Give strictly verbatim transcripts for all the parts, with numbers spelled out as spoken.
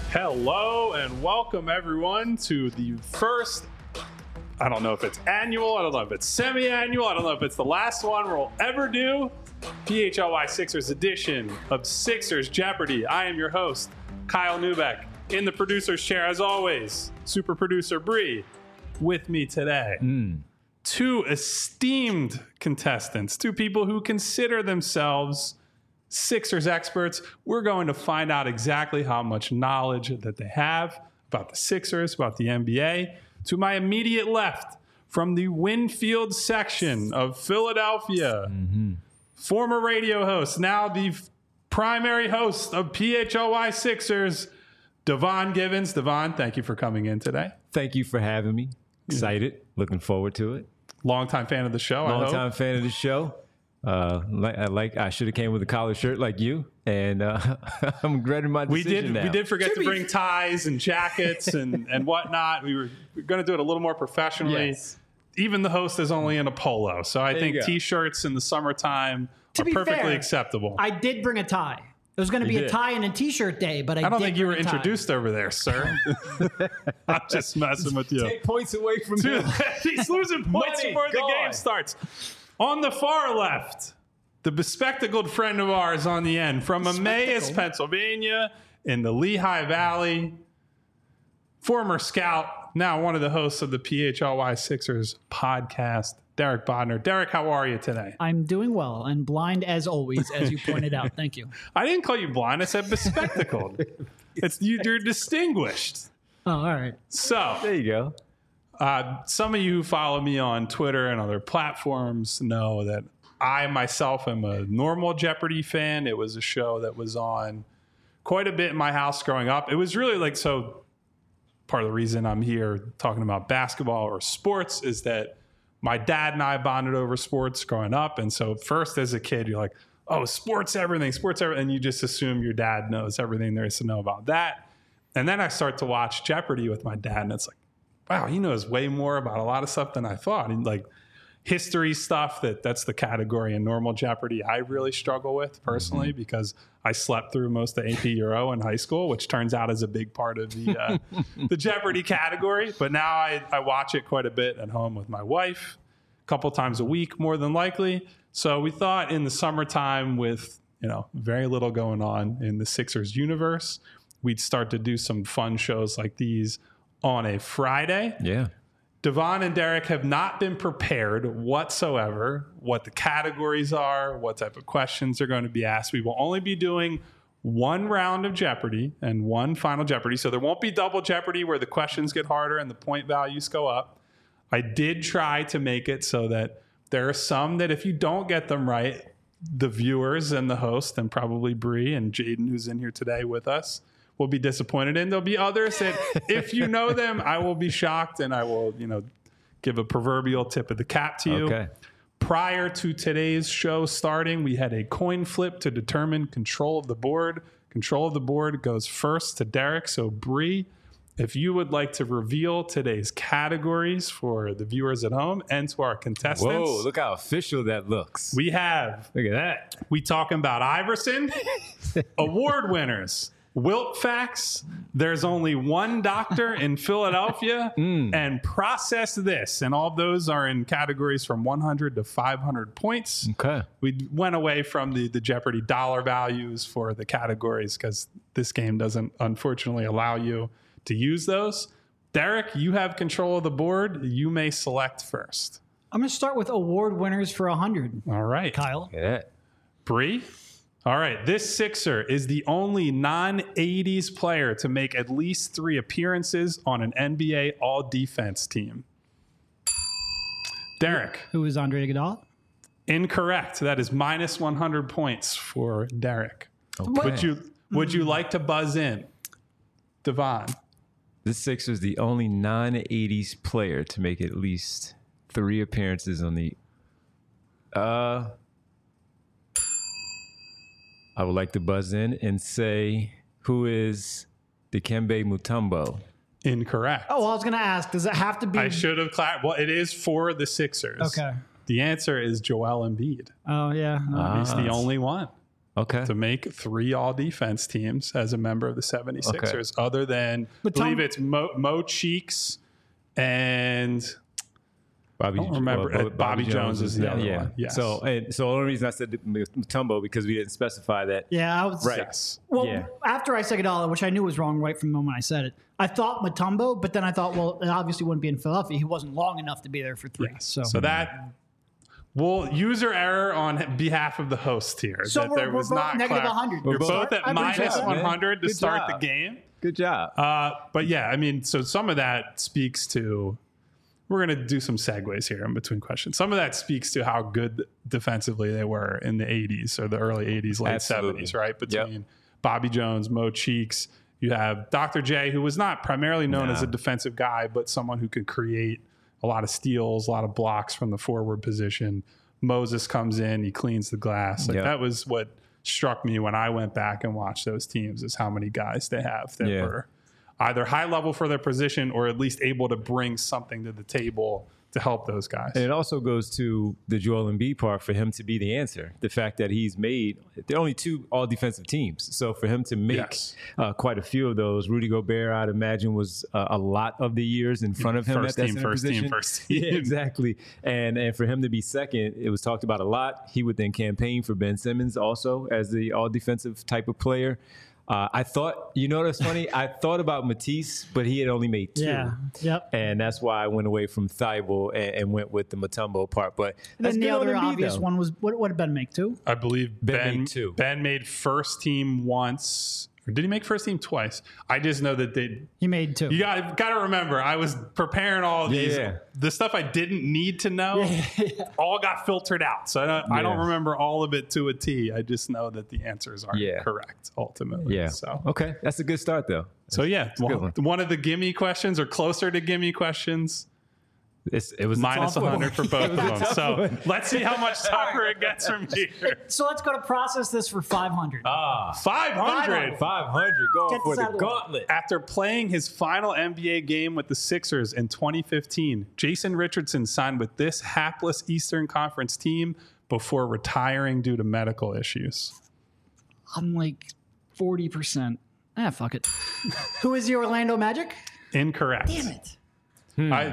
Hello and welcome everyone to the first, I don't know if it's annual, I don't know if it's semi-annual, I don't know if it's the last one we'll ever do, P H L Y Sixers edition of Sixers Jeopardy. I am your host, Kyle Neubeck. In the producer's chair, as always, super producer Bree. With me today, mm. two esteemed contestants, two people who consider themselves Sixers experts. We're going to find out exactly how much knowledge that they have about the Sixers, about the N B A. To my immediate left, from the Winfield section of Philadelphia, mm-hmm. former radio host, now the f- primary host of P H L Y Sixers, Devon Givens. Devon, thank you for coming in today. Thank you for having me. Excited. Yeah. Looking forward to it. Longtime fan of the show, Long I hope. Longtime fan of the show. Uh, like I like, I should have came with a collared shirt like you, and uh, I'm regretting my decision we did, now. We did forget to bring ties and jackets and, and whatnot. We were, we were going to do it a little more professionally. Yes. Even the host is only in a polo, so I there think T-shirts in the summertime to are be perfectly fair, acceptable. I did bring a tie. It was going to be you a did. tie and a T-shirt day, but I, I don't did think you were bring a tie. introduced over there, sir. I'm just messing with you. Take points away from him. He's losing points Money, before the gone. game starts. On the far left, the bespectacled friend of ours on the end from Emmaus, Pennsylvania, in the Lehigh Valley, former scout, now one of the hosts of the P H L Y Sixers podcast, Derek Bodner. Derek, how are you today? I'm doing well and blind as always, as you pointed out. Thank you. I didn't call you blind. I said bespectacled. it's you, You're distinguished. Oh, all right. So there you go. Uh, some of you who follow me on Twitter and other platforms know that I myself am a normal Jeopardy fan. It was a show that was on quite a bit in my house growing up. It was really like, so part of the reason I'm here talking about basketball or sports is that my dad and I bonded over sports growing up. And so first as a kid, you're like, oh, sports everything, sports everything. And you just assume your dad knows everything there is to know about that. And then I start to watch Jeopardy with my dad. And it's like, wow, he knows way more about a lot of stuff than I thought. And like history stuff, that that's the category in normal Jeopardy I really struggle with personally, mm-hmm. because I slept through most of A P Euro in high school, which turns out is a big part of the uh, the Jeopardy category. But now I, I watch it quite a bit at home with my wife, a couple times a week, more than likely. So we thought in the summertime with, you know, very little going on in the Sixers universe, we'd start to do some fun shows like these on a Friday. Yeah. Devon and Derek have not been prepared whatsoever what the categories are, what type of questions are going to be asked. We will only be doing one round of Jeopardy and one final Jeopardy. So there won't be double Jeopardy where the questions get harder and the point values go up. I did try to make it so that there are some that if you don't get them right, the viewers and the host and probably Bree and Jaden, who's in here today with us, will be disappointed in. There'll be others that if you know them, I will be shocked and I will, you know, give a proverbial tip of the cap to you. Okay. Prior to today's show starting, we had a coin flip to determine control of the board. Control of the board goes first to Derek. So Bree, if you would like to reveal today's categories for the viewers at home and to our contestants. Whoa, look how official that looks. We have. Look at that. We talking about Iverson, award winners, Wilt facts, there's only one doctor in Philadelphia, mm. and process this. And all of those are in categories from one hundred to five hundred points. Okay. We went away from the, the Jeopardy dollar values for the categories because this game doesn't, unfortunately, allow you to use those. Derek, you have control of the board. You may select first. I'm going to start with award winners for one hundred. All right. Kyle. Yeah. Bree? All right, this Sixer is the only non-eighties player to make at least three appearances on an N B A all-defense team. Derek. Who is Andre Iguodala? Incorrect. That is minus one hundred points for Derek. Okay. Would you Would you like to buzz in, Devon? This Sixer is the only non-eighties player to make at least three appearances on the... Uh... I would like to buzz in and say, who is Dikembe Mutombo? Incorrect. Oh, well, I was going to ask, does it have to be? I should have clapped. Well, it is for the Sixers. Okay. The answer is Joel Embiid. Oh, yeah. No. Ah. He's the only one. Okay. to make three all-defense teams as a member of the seventy-sixers, okay. other than, But I believe Tom- it's Mo, Mo Cheeks and Bobby, I don't remember. uh, Bobby, Bobby Jones, Jones is the yeah, other yeah. one. Yes. So, and, so the only reason I said Mutombo because we didn't specify that. Yeah, I was Right. Yes. Well, Yeah. after I said Iguodala, which I knew was wrong right from the moment I said it, I thought Mutombo, but then I thought, well, it obviously wouldn't be in Philadelphia. He wasn't long enough to be there for three. Yes. So, So that we'll user error on behalf of the host here. So that we're- there we're was both not negative clar- one hundred. We're Good both start. at I appreciate minus that, one man. hundred to Good start job. the game. Good job. Uh, but yeah, I mean, so some of that speaks to. We're going to do some segues here in between questions. Some of that speaks to how good defensively they were in the eighties or the early eighties, late Absolutely. seventies, right? Between Yep. Bobby Jones, Mo Cheeks. You have Doctor J, who was not primarily known Nah. as a defensive guy, but someone who could create a lot of steals, a lot of blocks from the forward position. Moses comes in, he cleans the glass. Like Yep. that was what struck me when I went back and watched those teams, is how many guys they have that Yeah. were either high level for their position or at least able to bring something to the table to help those guys. And it also goes to the Joel Embiid part for him to be the answer. The fact that he's made, there are only two all defensive teams. So for him to make Yes. uh, quite a few of those, Rudy Gobert, I'd imagine, was uh, a lot of the years in front of him First at that team, center first team, position. first team. Yeah, exactly. And and for him to be second, it was talked about a lot. He would then campaign for Ben Simmons also as the all defensive type of player. Uh, I thought, you know what's funny? I thought about Matisse, but he had only made two. yeah. Yep. And that's why I went away from Thibault and, and went with the Mutombo part. But that's Then the good on other Embiid, obvious though. one was, what, what did Ben make, two? I believe Ben Ben made two. Ben made first team once. Or did he make first team twice? I just know that they. He made two. You got got to remember, I was preparing all of these. Yeah. The stuff I didn't need to know, all got filtered out. So I don't, I don't Yeah. remember all of it to a T. I just know that the answers are Yeah. correct ultimately. Yeah. So Okay. That's a good start, though. so yeah, a good one, one. one of the gimme questions or closer to gimme questions. It's, it was a Minus tough one hundred for both of them. tough So one. let's see how much tougher it gets from here. So let's go to process this for five hundred. Ah, five hundred. five hundred going Get for this the out of the way. gauntlet. After playing his final N B A game with the Sixers in twenty fifteen, Jason Richardson signed with this hapless Eastern Conference team before retiring due to medical issues. I'm like forty percent. Ah, fuck it. Who is the Orlando Magic? Incorrect. Damn it. I,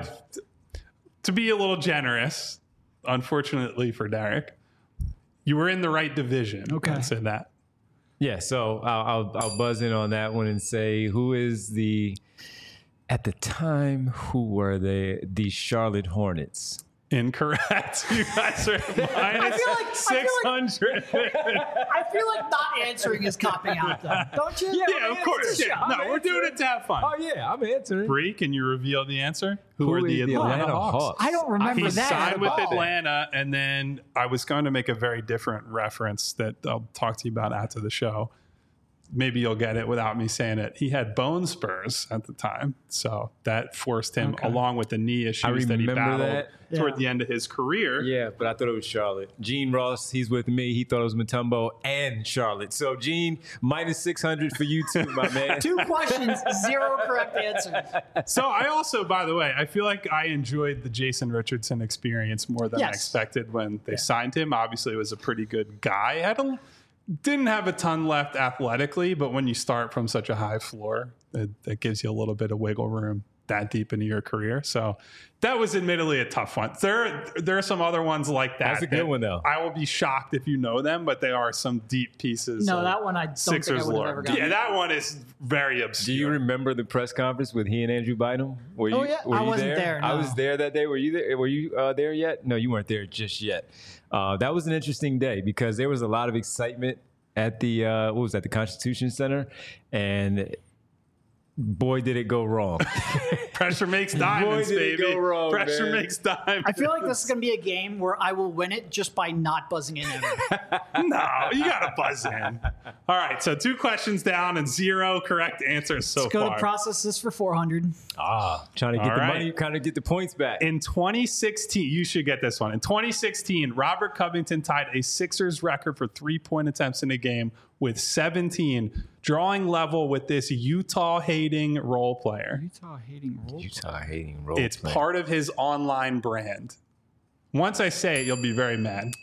to be a little generous, unfortunately for Derek, you were in the right division. Okay. I said that. Yeah, so I'll, I'll, I'll buzz in on that one and say, who is the, at the time, who were they? The Charlotte Hornets. Incorrect. You guys are minus feel like- I six feel hundred. I feel like not answering is copping out, though. Don't you? Yeah, of course. Yeah. No, we're doing it to have fun. Oh, yeah, I'm answering. Bree, can you reveal the answer? Who, Who are is the Atlanta, Hawks? I don't remember He that. signed at with all. Atlanta, and then I was going to make a very different reference that I'll talk to you about after the show. Maybe you'll get it without me saying it. He had bone spurs at the time, so that forced him, Okay. along with the knee issues that he remember battled that. toward Yeah. the end of his career. Yeah, but I thought it was Charlotte. Gene Ross, he's with me. He thought it was Mutombo and Charlotte. So, Gene, minus six hundred for you too, my man. Two questions, zero correct answers. So I also, by the way, I feel like I enjoyed the Jason Richardson experience more than I Yes. expected when they signed him. Obviously, he was a pretty good guy. Had a, didn't have a ton left athletically, but when you start from such a high floor, it, it gives you a little bit of wiggle room that deep into your career. So that was admittedly a tough one. There, there are some other ones like that. That's a good that one, though. I will be shocked if you know them, but they are some deep pieces. No, of that one I don't Sixers think I would have lore. ever gotten. Yeah, that one is very obscure. Do you remember the press conference with he and Andrew Bynum? Were you, Oh, yeah. were I you wasn't there, I no. was there that day. Were you there? Were you uh, there yet? No, you weren't there just yet. Uh, that was an interesting day because there was a lot of excitement at the uh, what was that? The Constitution Center, and boy, did it go wrong. Pressure makes diamonds, Boy, did it baby. go wrong, Pressure man. makes diamonds. I feel like this is going to be a game where I will win it just by not buzzing in ever. No, you got to buzz in. All right, so two questions down and zero correct answers so Let's go far. to process this for four hundred. ah, trying to get All the right. money, trying to get the points back. In twenty sixteen, you should get this one. In twenty sixteen, Robert Covington tied a Sixers record for three-point attempts in a game with seventeen, drawing level with this Utah-hating role player. Utah hating role. Utah hating role. It's play. part of his online brand. Once I say it, you'll be very mad.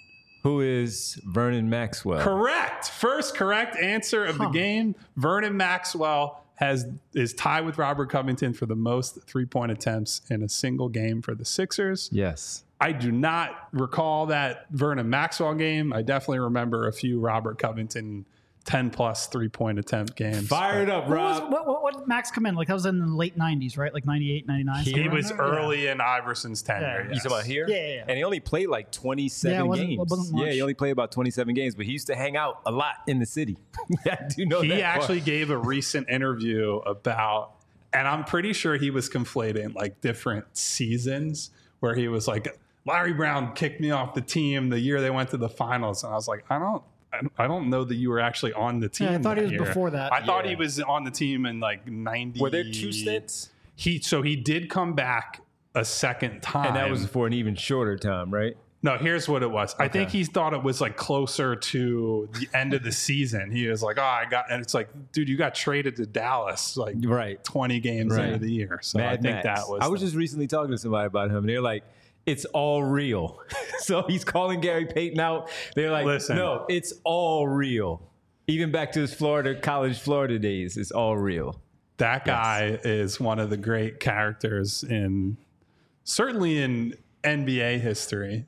Who is Vernon Maxwell? Correct. First correct answer of the game. Vernon Maxwell has is tied with Robert Covington for the most three-point attempts in a single game for the Sixers. Yes. I do not recall that Vernon Maxwell game. I definitely remember a few Robert Covington ten-plus three-point attempt games. Fire it up, What, was, Rob. what, what, what did Max come in? Like that was in the late nineties, right? Like ninety-eight, ninety-nine. He somewhere was around there? early in Iverson's tenure. Yeah. You yes. talking about here? Yeah, yeah, yeah. And he only played like twenty-seven Yeah, it wasn't- it games. wasn't Yeah, much. he only played about twenty-seven games, but he used to hang out a lot in the city. Yeah, I do know that He part. actually gave a recent interview about, and I'm pretty sure he was conflating like different seasons where he was like, Larry Brown kicked me off the team the year they went to the finals. And I was like, I don't, I don't know that you were actually on the team. Yeah, I thought that he was year. before that. I thought Yeah. he was on the team in like ninety. Were there two stints? He, so he did come back a second time. And that was for an even shorter time, right? No, here's what it was. I think Okay. he thought it was like closer to the end of the season. He was like, "Oh, I got," and it's like, "Dude, you got traded to Dallas like Right. twenty games Right. into the year." So Mad I think Max. that was. I was the- just recently talking to somebody about him. They're like, it's all real. So he's calling Gary Payton out. They're like, Listen. no, it's all real. Even back to his Florida, college Florida days, it's all real. that guy is one of the great characters in certainly in N B A history.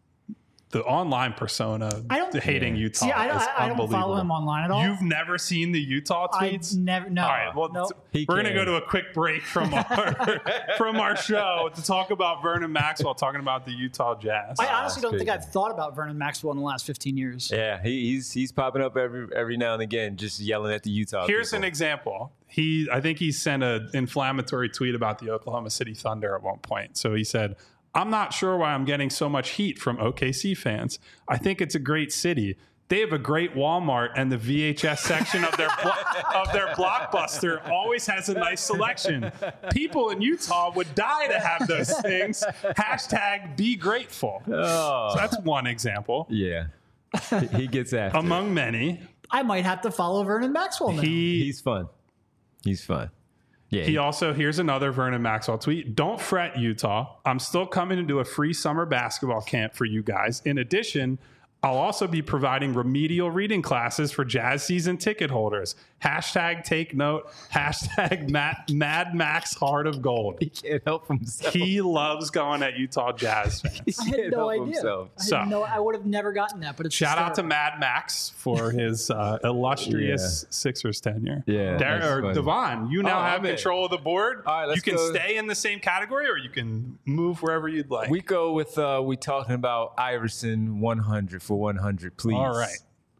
The online persona, I don't- hating Utah, See, I don't, is I, I don't unbelievable. follow him online at all. You've never seen the Utah I tweets? never. No. All right, well, no. t- He we're going to can. go to a quick break from our from our show to talk about Vernon Maxwell, talking about the Utah Jazz. I honestly don't think crazy. I've thought about Vernon Maxwell in the last fifteen years. Yeah, he, he's he's popping up every every now and again, just yelling at the Utah. Here's people. an example. He, I think he sent an inflammatory tweet about the Oklahoma City Thunder at one point. So he said, I'm not sure why I'm getting so much heat from O K C fans. I think it's a great city. They have a great Walmart, and the V H S section of their blo- of their Blockbuster always has a nice selection. People in Utah would die to have those things. Hashtag be grateful. Oh, So that's one example yeah, he, he gets after. it. among many. I might have to follow Vernon Maxwell now. He He's fun. He's fun. Yeah, He also, here's another Vernon Maxwell tweet. Don't fret, Utah. I'm still coming to do a free summer basketball camp for you guys. In addition, I'll also be providing remedial reading classes for Jazz season ticket holders. Hashtag take note. Hashtag Matt, Mad Max Heart of Gold. he can't help himself. He loves going at Utah Jazz fans. He I had can't no help idea. himself. I, had So- no, I would have never gotten that. But it's Shout out to hysterical. Mad Max for his uh, illustrious Sixers tenure. Yeah, Dar- that's or funny. Devon, you now Oh, have I'm in. control of the board. All right, let's you can go. stay in the same category, or you can move wherever you'd like. We go with uh we talking about Iverson one hundred for one hundred, please. All right.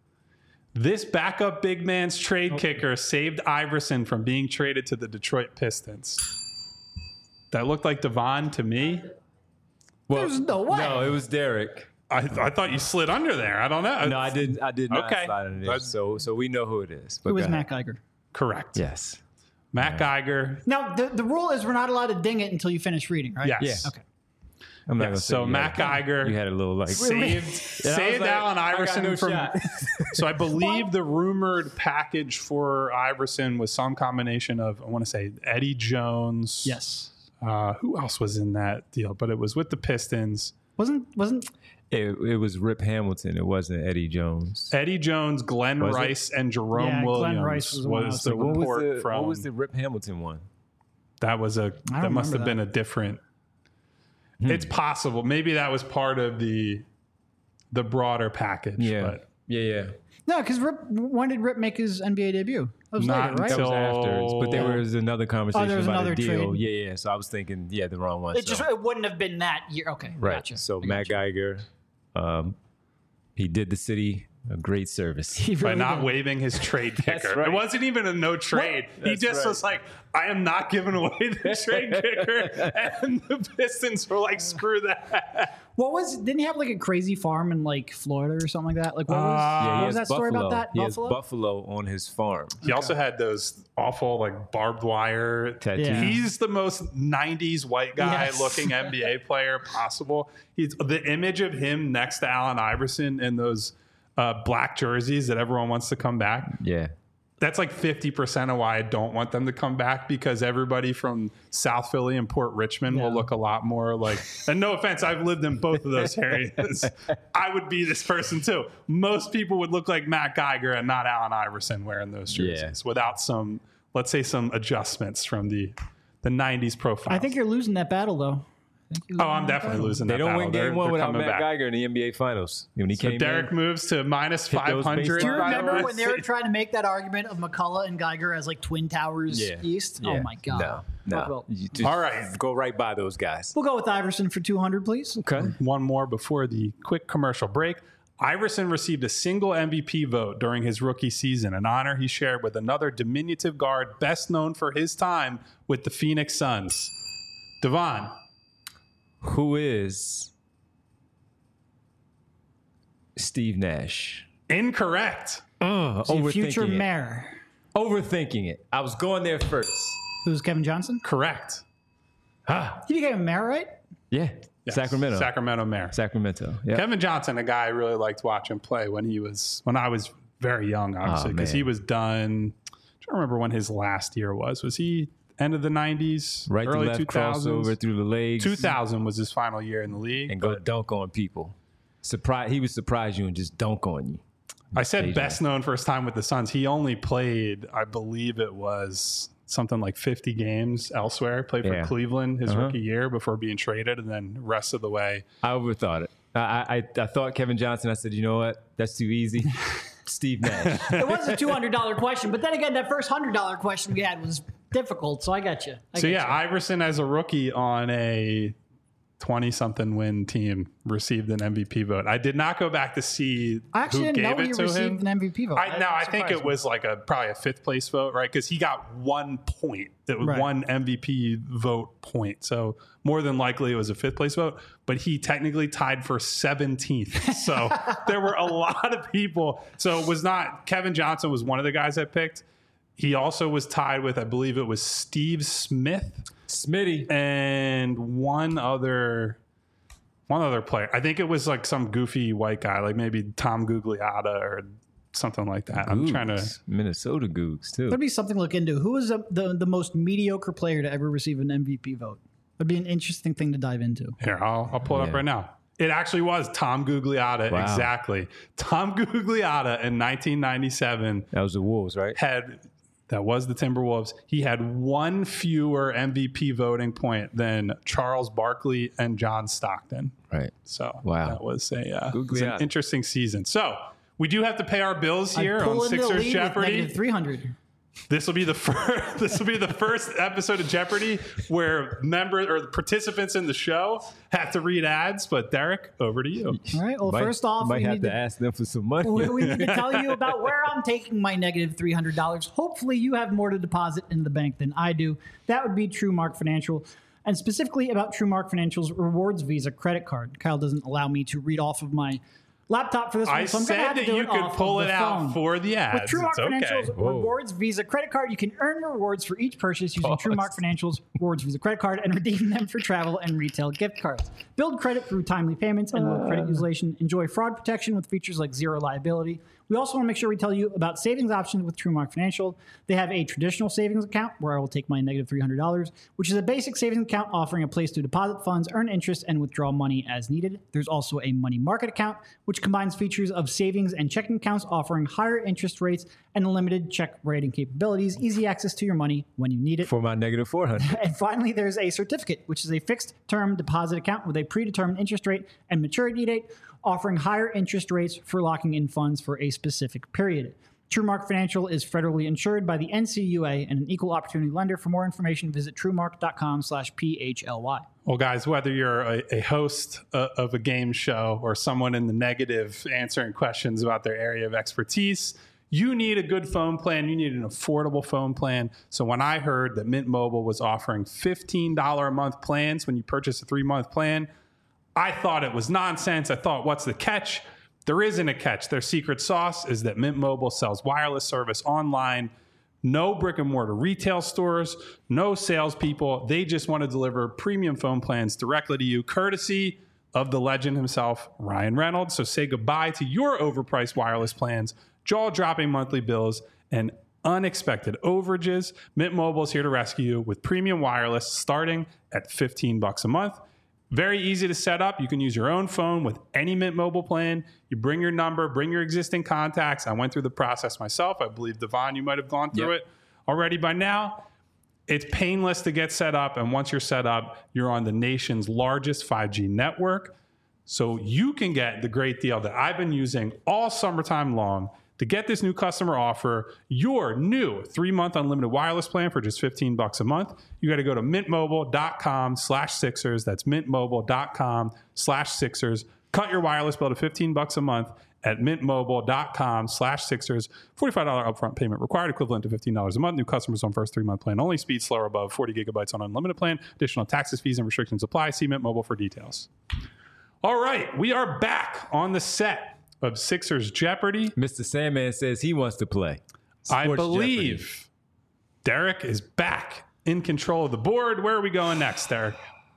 This backup big man's trade kicker saved Iverson from being traded to the Detroit Pistons. That looked like Devon to me. Well, There's no way. No, it was Derek. I, I thought you slid under there. I don't know. No, I did. I did not Okay. slide under there. That's- So, so we know who it is. But It was go Matt ahead. Geiger. Correct. Yes. Matt Geiger. Now, the, the rule is we're not allowed to ding it until you finish reading, right? Yes. Yeah. Okay. I'm not Yeah, gonna say so you Matt had, Geiger You had a little like saved, And I was saved like, Allen I got Iverson no from. shot. So I believe the rumored package for Iverson was some combination of, I want to say, Eddie Jones. Yes. Uh, who else was in that deal? But it was with the Pistons. Wasn't wasn't It, it was Rip Hamilton. It wasn't Eddie Jones. Eddie Jones, Glenn Was it? Rice, and Jerome Yeah, Glenn Williams Rice was the one I was the thinking. What was report the from. What was the Rip Hamilton one? that was a I that don't must have remember been that. a different. Hmm. It's possible. Maybe that was part of the the broader package. Yeah. But Yeah, yeah. no? Because Rip. When did Rip make his N B A debut? That was Not later, right? That was So- after. But there was another conversation Oh, there was about another a deal. trade? Yeah, yeah. So I was thinking, yeah, the wrong one. It so. just it wouldn't have been that year. Okay, Right. Gotcha. So I Matt gotcha. Geiger, um, he did the city a great service. He by really not did. waiving his trade kicker. right. It wasn't even a no trade. He That's just right. was like, I am not giving away the trade kicker. And the Pistons were like, screw that. What was? Didn't he have like a crazy farm in like Florida or something like that? Like what was? Uh, Yeah, what he was has that story buffalo. about that? He Buffalo. has buffalo on his farm. He also had those awful like barbed wire Tattoos. Yeah. He's the most nineties white guy Yes. looking N B A player possible. He's the image of him next to Allen Iverson in those uh, black jerseys that everyone wants to come back. Yeah. That's like fifty percent of why I don't want them to come back, because everybody from South Philly and Port Richmond Yeah. will look a lot more like, and no offense, I've lived in both of those areas. I would be this person too. Most people would look like Matt Geiger and not Allen Iverson wearing those jerseys Yeah. without some, let's say, some adjustments from the, the nineties profile. I think you're losing that battle, though. I think you're Oh, losing I'm that definitely battle. losing They that don't battle. win They're- game one they're without coming Matt back. Geiger in the N B A Finals. When he So came Derek in, moves to minus Hit those five hundred. bases. Do you By the remember way. when they were trying to make that argument of McCullough and Geiger as like Twin Towers yeah. East? Yeah. Oh my God. No, no. Well, You just All right. go right by those guys. we'll go with Iverson for two hundred, please. Okay. One more before the quick commercial break. Iverson received a single M V P vote during his rookie season, an honor he shared with another diminutive guard best known for his time with the Phoenix Suns. Devon. Who is Steve Nash? Incorrect. Uh, The overthinking future it. mayor. Overthinking it. I was going there first. Who's Kevin Johnson? Correct. Ah, He became a mayor, right? yeah. Yes. Sacramento. Sacramento Mayor. Sacramento. Yeah. Kevin Johnson, a guy I really liked watching play when he was when I was very young, obviously, Oh, because man. he was done. I'm trying to remember when his last year was. Was he end of the nineties, Right to early left two thousands? crossover through the legs. two thousand was his final year in the league. and go dunk on people. Surprise! He would surprise you and just dunk on you. I said Stage best known for his time with the Suns. He only played, I believe it was something like fifty games elsewhere. Played for Yeah. Cleveland his Uh-huh. rookie year before being traded, and then rest of the way. I overthought it. I, I I thought Kevin Johnson. I said, you know what? That's too easy. Steve Nash. It was a two hundred dollars question, but then again, that first one hundred dollars question we had was difficult, so I got you. I So get yeah, you. Iverson as a rookie on a twenty-something win team received an M V P vote. I did not go back to see I actually who didn't gave know it he to received him. an M V P vote. I, no, That I think surprised it me. was like a probably a fifth place vote, right? Because he got one point. It was Right. one M V P vote point. So more than likely it was a fifth place vote. But he technically tied for seventeenth. So there were a lot of people. So it was not Kevin Johnson was one of the guys I picked. He also was tied with, I believe it was Steve Smith Smitty. and one other. One other player. I think it was like some goofy white guy, like maybe Tom Gugliotta or something like that. I'm trying to. Googs. Minnesota Googs too. That'd be something to look into. Who was the, the the most mediocre player to ever receive an M V P vote? That'd be an interesting thing to dive into. Here, I'll, I'll pull it up Yeah. right now. It actually was Tom Gugliotta. Wow. Exactly. Tom Gugliotta in nineteen ninety-seven That was the Wolves, right? had, that was the Timberwolves. He had one fewer M V P voting point than Charles Barkley and John Stockton. Right. So Wow. that was a uh, it was an Gugliotta. interesting season. So we do have to pay our bills here I pull on into the Sixers lead with Jeopardy. negative three hundred. This will be the first. This will be the first episode of Jeopardy where members or the participants in the show have to read ads. But Derek, over to you. All right. Well, Might- first off, might we have need to to, ask them for some money. we, we need to tell you about where I'm taking my negative three hundred dollars. Hopefully, you have more to deposit in the bank than I do. That would be TrueMark Financial. And specifically about TrueMark Financial's Rewards Visa credit card. Kyle doesn't allow me to read off of my laptop for this I one, so I'm going to said have to that do you it could off pull of it the out phone. for the ads. With TrueMark It's okay. Financial's Whoa. Rewards Visa credit card, you can earn rewards for each purchase using Pause. TrueMark Financial's Rewards Visa credit card and redeem them for travel and retail gift cards. Build credit through timely payments and low credit utilization. Enjoy fraud protection with features like zero liability. We also want to make sure we tell you about savings options with TrueMark Financial. They have a traditional savings account where I will take my negative three hundred dollars, which is a basic savings account offering a place to deposit funds, earn interest, and withdraw money as needed. There's also a money market account, which combines features of savings and checking accounts offering higher interest rates and limited check writing capabilities, easy access to your money when you need it. For my negative four hundred. And finally, there's a certificate, which is a fixed term deposit account with a predetermined interest rate and maturity date, offering higher interest rates for locking in funds for a specific period. TrueMark Financial is federally insured by the N C U A and an equal opportunity lender. For more information, visit truemark.com slash PHLY. Well, guys, whether you're a, a host uh, of a game show or someone in the negative answering questions about their area of expertise, you need a good phone plan. You need an affordable phone plan. So when I heard that Mint Mobile was offering fifteen dollars a month plans when you purchase a three-month plan, I thought it was nonsense. I thought, what's the catch? There isn't a catch. Their secret sauce is that Mint Mobile sells wireless service online. No brick and mortar retail stores, no salespeople. They just want to deliver premium phone plans directly to you, courtesy of the legend himself, Ryan Reynolds. So say goodbye to your overpriced wireless plans, jaw-dropping monthly bills, and unexpected overages, Mint Mobile is here to rescue you with premium wireless starting at fifteen bucks a month. Very easy to set up. You can use your own phone with any Mint Mobile plan. You bring your number, bring your existing contacts. I went through the process myself. I believe, Devon, you might have gone through Yep. it already by now. It's painless to get set up. And once you're set up, you're on the nation's largest five G network. So you can get the great deal that I've been using all summertime long. To get this new customer offer, your new three-month unlimited wireless plan for just fifteen bucks a month, you got to go to mintmobile.com slash Sixers. That's mintmobile.com slash Sixers. Cut your wireless bill to fifteen bucks a month at mintmobile.com slash Sixers. forty-five dollars upfront payment required, equivalent to fifteen dollars a month. New customers on first three-month plan only. Speed slower above forty gigabytes on unlimited plan. Additional taxes, fees, and restrictions apply. See Mint Mobile for details. All right, we are back on the set of Sixers Jeopardy. Mister Sandman says he wants to play. I Sports believe Jeopardy. Derek is back in control of the board. Where are we going next, Derek?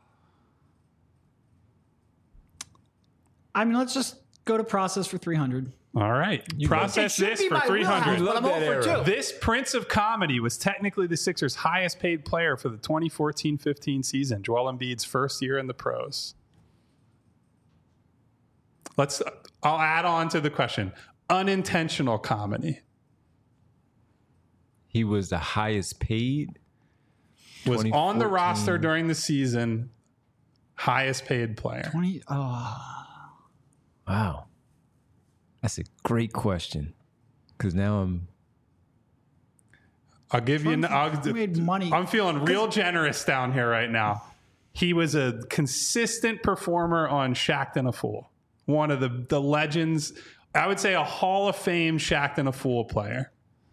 I mean, let's just go to process for three hundred. All right. Process It should this be for my three hundred. wheelhouse, but I'm Love that over era. two. This Prince of Comedy was technically the Sixers' highest paid player for the twenty fourteen fifteen season, Joel Embiid's first year in the pros. Let's. I'll add on to the question. Unintentional comedy He was the highest paid. was on the twenty fourteen roster during the season. Highest paid player. twenty Oh. Wow. That's a great question. Because now I'm. I'll give you. I'll, Who made money? I'm feeling real generous down here right now. He was a consistent performer on Shaqtin' and a Fool. One of the, the legends. I would say a Hall of Fame Shaqtin' and a Fool player.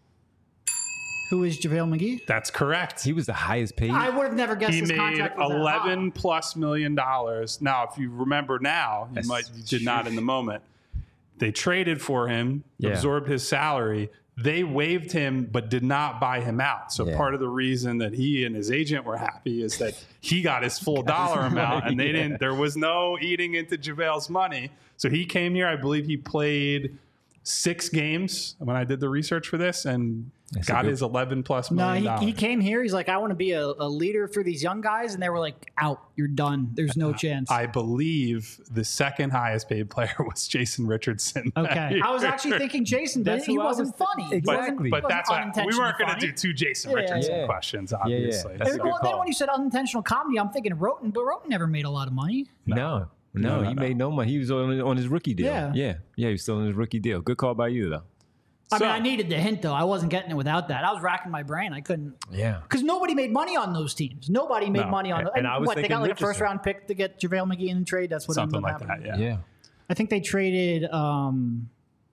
Who is JaVale McGee? That's correct. He was the highest paid. I would have never guessed He his made contract was that eleven plus million dollars. Now, if you remember now, you That's might you did not in the moment. They traded for him, Yeah. absorbed his salary. They waived him, but did not buy him out. So Yeah. part of the reason that he and his agent were happy is that he got his full dollar amount, and they Yeah. didn't. There was no eating into JaVale's money. So he came here. I believe he played six games when I did the research for this, and That's a got good- his eleven plus No, million he, dollars. he came here. He's like, I want to be a, a leader for these young guys. And they were like, out. You're done. There's no chance. I believe the second highest paid player was Jason Richardson. that okay. year. I was actually thinking Jason, but That's he who I wasn't was funny. He Exactly. wasn't- he But wasn't that's why we unintentionally weren't going to funny. do two Jason Yeah, yeah, Richardson yeah. questions, yeah. obviously. That's Hey, a good well, then call. when you said unintentional comedy, I'm thinking Roten, but Roten never made a lot of money. No. No, No, no, he no. made no money. He was on, on his rookie deal. Yeah. Yeah. Yeah, he was still on his rookie deal. Good call by you, though. I So- mean, I needed the hint, though. I wasn't getting it without that. I was racking my brain. I couldn't. Yeah. Because nobody made money on those teams. Nobody made No. money on And- those. and I was what, they got thinking like a first Richardson. round pick to get JaVale McGee in the trade? That's what Something ended up like that, happening. yeah. Yeah. I think they traded, um,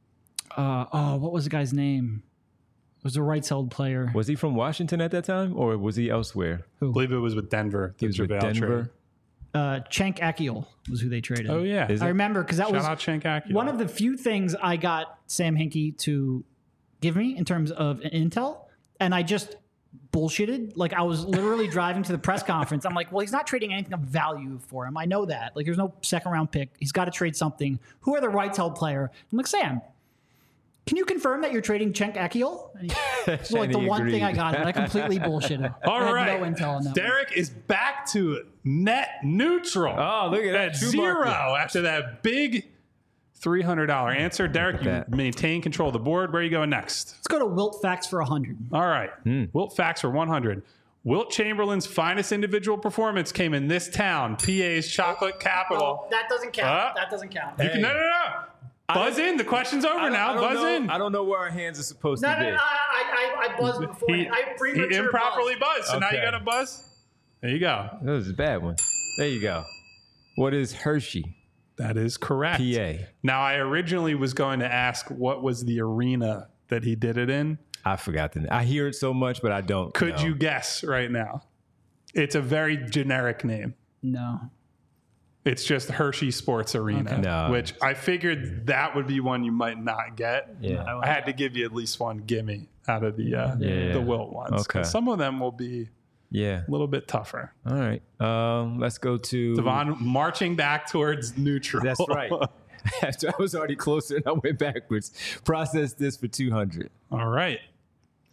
uh, oh, what was the guy's name? It was a rights held player. Was he from Washington at that time, or was he elsewhere? I believe it was with Denver. He the was with JaVale Denver. trade. Uh, Cenk Akiol was who they traded. Oh, yeah. Is I it? remember because that Shout was out Cenk Akia. one of the few things I got Sam Hinkie to give me in terms of intel, and I just bullshitted. Like, I was literally driving to the press conference. I'm like, well, he's not trading anything of value for him. I know that. Like, there's no second round pick. He's got to trade something. Who are the rights held player? I'm like, Sam, can you confirm that you're trading Cenk Akiol? And he- It's like And the he one thing I agreed. got, and I completely bullshitted. All I had right. no intel on that. one. Derek is back to net neutral. Oh, look at that. At True zero market. after that big three hundred dollars answer. Derek, you that. maintain control of the board. Where are you going next? Let's go to Wilt Facts for one hundred. All right. Hmm. Wilt Facts for one hundred. Wilt Chamberlain's finest individual performance came in this town, P A's chocolate capital. that doesn't count. Uh, that doesn't count. You can, no, no, no. Buzz in. The question's over I don't- now. I don't Buzz know, in. I don't know where our hands are supposed No, to no, be. no, I, I, I buzzed before. He, I he premature improperly buzzed. buzzed. So now you Okay. got to buzz. There you go. That was a bad one. There you go. What is Hershey, That is correct. P A? Now, I originally was going to ask what was the arena that he did it in. I forgot the name. I hear it so much, but I don't. Could know. you guess right now? It's a very generic name. No. It's just Hershey Sports Arena, Okay. No. which I figured that would be one you might not get. Yeah. I had to give you at least one gimme out of the uh, Yeah. the Wilt ones. 'Cause Okay. Some of them will be Yeah. a little bit tougher. All right. Um, let's go to Devon marching back towards neutral. That's right. After I was already closer and I went backwards. Process this for two hundred. All right.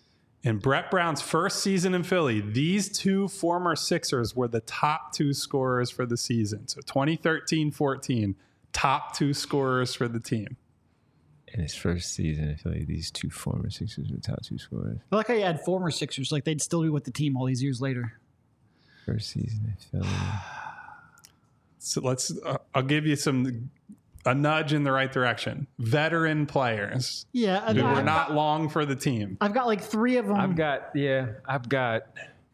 In Brett Brown's first season in Philly, these two former Sixers were the top two scorers for the season. So twenty thirteen fourteen, top two scorers for the team. In his first season, I feel like these two former Sixers were top two scorers. I like how you had former Sixers, like they'd still be with the team all these years later. First season, I feel like. So let's, uh, I'll give you some, a nudge in the right direction. Veteran players Yeah. who I've were not got, long for the team. I've got like three of them. I've got, yeah, I've got.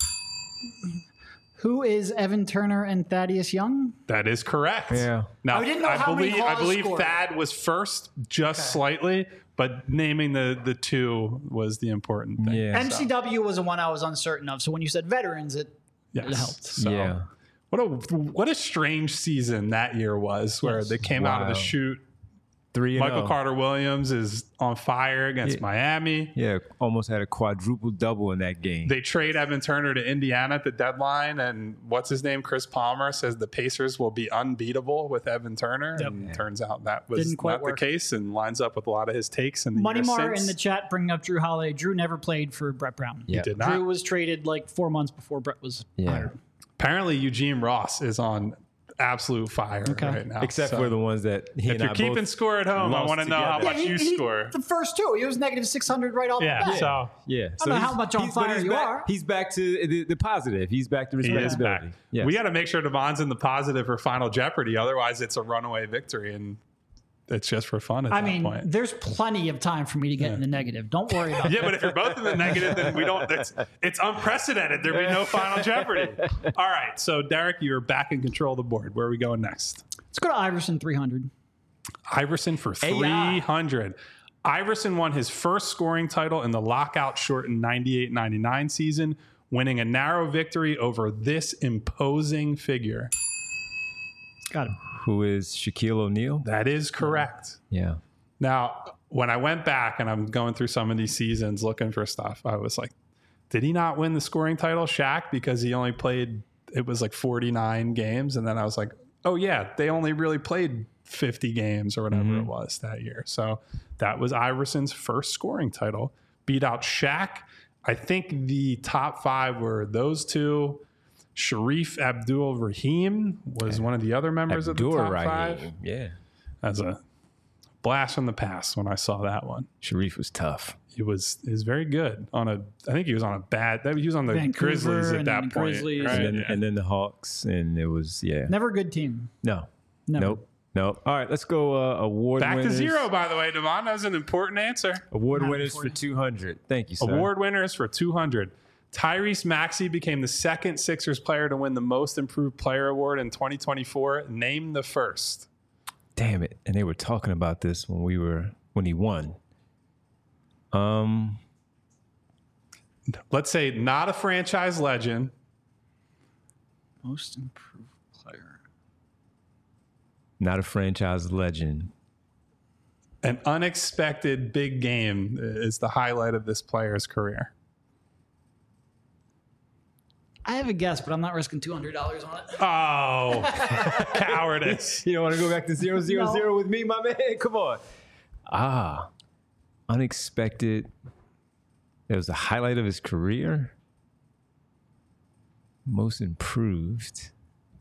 Who is Evan Turner and Thaddeus Young? That is correct. Yeah. Now, I didn't know I how many believe, I Hawes believe scored. Thad was first just slightly, but naming the, the two was the important thing. Yeah. M C W was the one I was uncertain of. So when you said veterans, it, Yes. it helped. So, Yeah. What a what a strange season that year was, where Yes. they came out of the Wild. chute. Three and Michael oh. Carter Williams is on fire against Yeah. Miami. Yeah, almost had a quadruple double in that game. They trade Evan Turner to Indiana at the deadline, and what's his name? Chris Palmer says the Pacers will be unbeatable with Evan Turner. Yep. And turns out that was Didn't quite not work. the case, and lines up with a lot of his takes in the Money years Mar since. in the chat bringing up Drew Holiday. Drew never played for Brett Brown. Yeah. Did not. Drew was traded like four months before Brett was Yeah. hired. Apparently, Eugene Ross is on absolute fire Okay. right now. Except So for the ones that he if and you're I keeping both score at home, I lost want to know how together. much he- you he- score. The first two, he was negative six hundred right off Yeah, the bat. so Yeah. I don't know how much on he's- but fire he's you back, are. He's back to the, the positive. He's back to he is respectability. back. Yes. We got to make sure Devon's in the positive for Final Jeopardy. Otherwise, it's a runaway victory, and it's just for fun at I that mean, point. there's plenty of time for me to get in the negative. Don't worry about Yeah, that. but if you're both in the negative, then we don't. It's, it's unprecedented. There'd be no Final Jeopardy. All right, so Derek, you're back in control of the board. Where are we going next? Let's go to Iverson three hundred. Iverson for three hundred. Iverson won his first scoring title in the lockout shortened ninety-eight ninety-nine season, winning a narrow victory over this imposing figure. Got him. Who is Shaquille O'Neal? That is correct. Yeah. Now, when I went back and I'm going through some of these seasons looking for stuff, I was like, did he not win the scoring title, Shaq, because he only played, it was like forty-nine games? And then I was like, oh, yeah, they only really played fifty games or whatever Mm-hmm. it was that year. So that was Iverson's first scoring title. Beat out Shaq. I think the top five were those two. Sharif Abdul Rahim was one of the other members of the Abdur top Rahim. five. Yeah. As a blast from the past when I saw that one. Sharif was tough. He was he was very good on a. I think he was on a bad. He was on the Vancouver Grizzlies at and that then point, Grizzlies. right? And then, Yeah. and then the Hawks, and it was, yeah. Never a good team. No. Never. Nope. Nope. All right, let's go uh, award Back winners. to zero, by the way, Devon. That was an important answer. Award Not winners for important. two hundred. Thank you, sir. Award winners for two hundred. Tyrese Maxey became the second Sixers player to win the Most Improved Player award in twenty twenty-four. Name the first. Damn it. And they were talking about this when we were, when he won. Um, Let's say not a franchise legend. Most improved player. Not a franchise legend. An unexpected big game is the highlight of this player's career. I have a guess, but I'm not risking two hundred dollars on it. Oh, cowardice. You don't want to go back to zero, zero, No. zero with me, my man? Come on. Ah, unexpected. It was the highlight of his career. Most improved.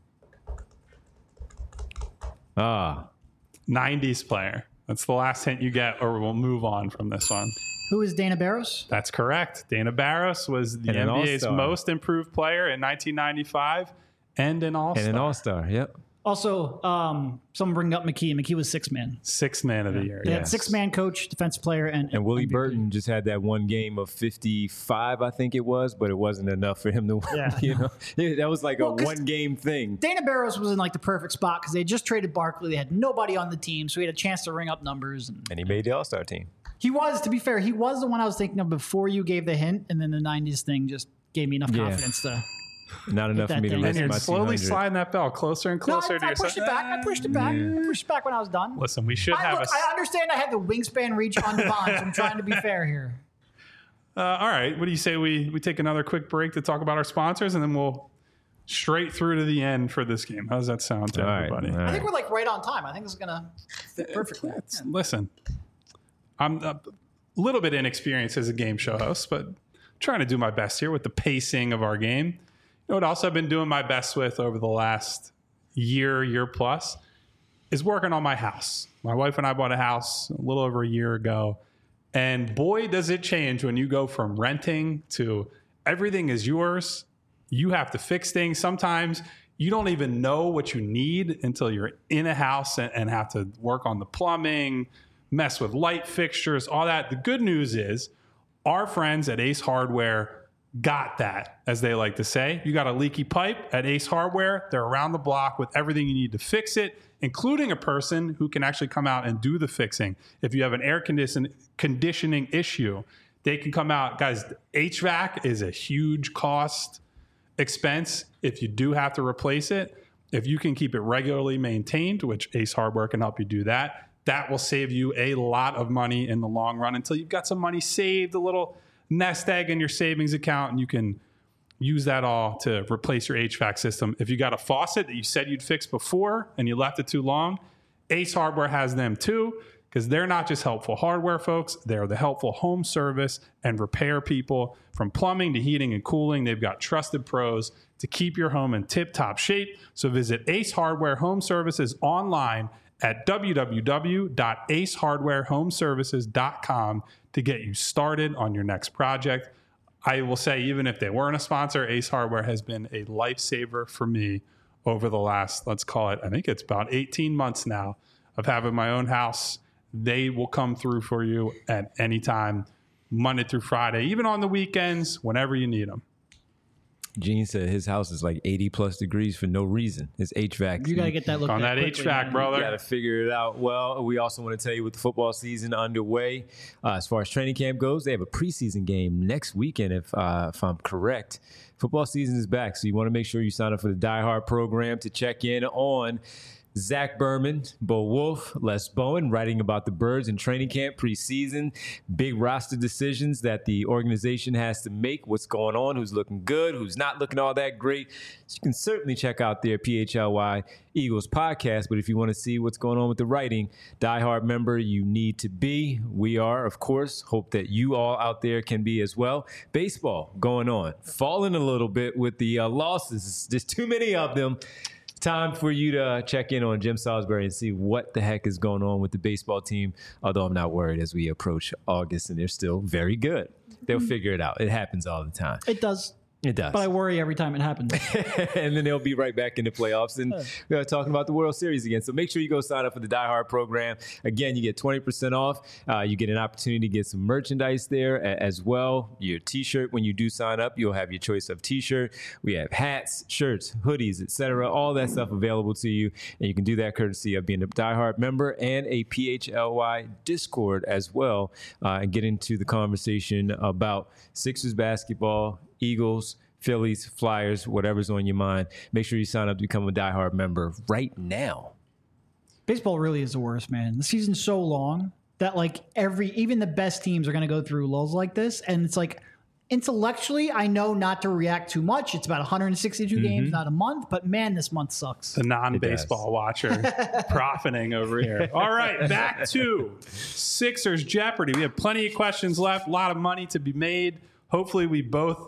Ah, nineties player. That's the last hint you get, or we'll move on from this one. Who is Dana Barros? That's correct. Dana Barros was the And an N B A's all-star. most improved player in nineteen ninety-five and an all-star. and an all-star. Yep. Also, um, someone bring up McKee. McKee was six man. Sixth man of the year. They had Yes. six man coach, defensive player, and And Willie M V P. Burton just had that one game of fifty-five, I think it was, but it wasn't enough for him to win. Yeah. You know, Yeah, that was like Well, a 'cause- one game thing. Dana Barros was in like the perfect spot because they just traded Barkley. They had nobody on the team, so he had a chance to ring up numbers. And And he made the all-star team. he was, to be fair, he was the one I was thinking of before you gave the hint, and then the nineties thing just gave me enough Yeah. confidence to. Not enough for that me to thing. risk And you're my slowly two hundred. sliding that bell closer and No, I, closer to I yourself. pushed it back. I pushed it back. I pushed it back when I was done. Listen, we should I, have look, a. I understand I had the wingspan reach on Devon, so I'm trying to be fair here. Uh, all right. What do you say we we take another quick break to talk about our sponsors, and then we'll straight through to the end for this game. How does that sound to All right, everybody? all I right. think we're like right on time. I think this is gonna fit perfectly. Listen, I'm a little bit inexperienced as a game show host, but trying to do my best here with the pacing of our game. You know what else I've been doing my best with over the last year, year plus is working on my house. My wife and I bought a house a little over a year ago. And boy, does it change when you go from renting to everything is yours. You have to fix things. Sometimes you don't even know what you need until you're in a house and, and have to work on the plumbing, mess with light fixtures, all that. The good news is our friends at Ace Hardware got that, as they like to say. You got a leaky pipe at Ace Hardware. They're around the block with everything you need to fix it, including a person who can actually come out and do the fixing. If you have an air condition, conditioning issue, they can come out. Guys, H V A C is a huge cost expense if you do have to replace it. If you can keep it regularly maintained, which Ace Hardware can help you do that, that will save you a lot of money in the long run until you've got some money saved, a little nest egg in your savings account, and you can use that all to replace your H V A C system. If you got a faucet that you said you'd fix before and you left it too long, Ace Hardware has them too, because they're not just helpful hardware folks, they're the helpful home service and repair people. From plumbing to heating and cooling, they've got trusted pros to keep your home in tip-top shape. So visit Ace Hardware Home Services online at w w w dot ace hardware home services dot com to get you started on your next project. I will say, even if they weren't a sponsor, Ace Hardware has been a lifesaver for me over the last, let's call it, I think it's about eighteen months now of having my own house. They will come through for you at any time, Monday through Friday, even on the weekends, whenever you need them. Gene said his house is like eighty plus degrees for no reason. His H V A C. You got to get that looked on at that quickly, H V A C, man. brother. You got to figure it out. Well, we also want to tell you with the football season underway, uh, as far as training camp goes, they have a preseason game next weekend, if uh, if I'm correct. Football season is back, so you want to make sure you sign up for the Die Hard program to check in on Zach Berman, Bo Wolf, Les Bowen, writing about the Birds in training camp preseason, big roster decisions that the organization has to make, what's going on, who's looking good, who's not looking all that great. So you can certainly check out their P H L Y Eagles podcast, but if you want to see what's going on with the writing, Die Hard member you need to be. We are, of course, hope that you all out there can be as well. Baseball going on, falling a little bit with the uh, losses. There's too many of them. Time for you to check in on Jim Salisbury and see what the heck is going on with the baseball team, although I'm not worried as we approach August and they're still very good. They'll figure it out. It happens all the time. It does. It does. But I worry every time it happens. And then they'll be right back in the playoffs and uh, talking about the World Series again. So make sure you go sign up for the Die Hard program. Again, you get twenty percent off. Uh, you get an opportunity to get some merchandise there a- as well. Your T-shirt, when you do sign up, you'll have your choice of T-shirt. We have hats, shirts, hoodies, et cetera. All that stuff available to you. And you can do that courtesy of being a Die Hard member and a P H L Y Discord as well. Uh, and get into the conversation about Sixers basketball, Eagles, Phillies, Flyers, whatever's on your mind. Make sure you sign up to become a Die Hard member right now. Baseball really is the worst, man. The season's so long that like every, even the best teams are going to go through lulls like this. And it's like intellectually, I know not to react too much. It's about one hundred sixty-two mm-hmm. games, not a month. But man, this month sucks. The non-baseball watcher profiting over here. All right, back to Sixers Jeopardy. We have plenty of questions left, a lot of money to be made. Hopefully we both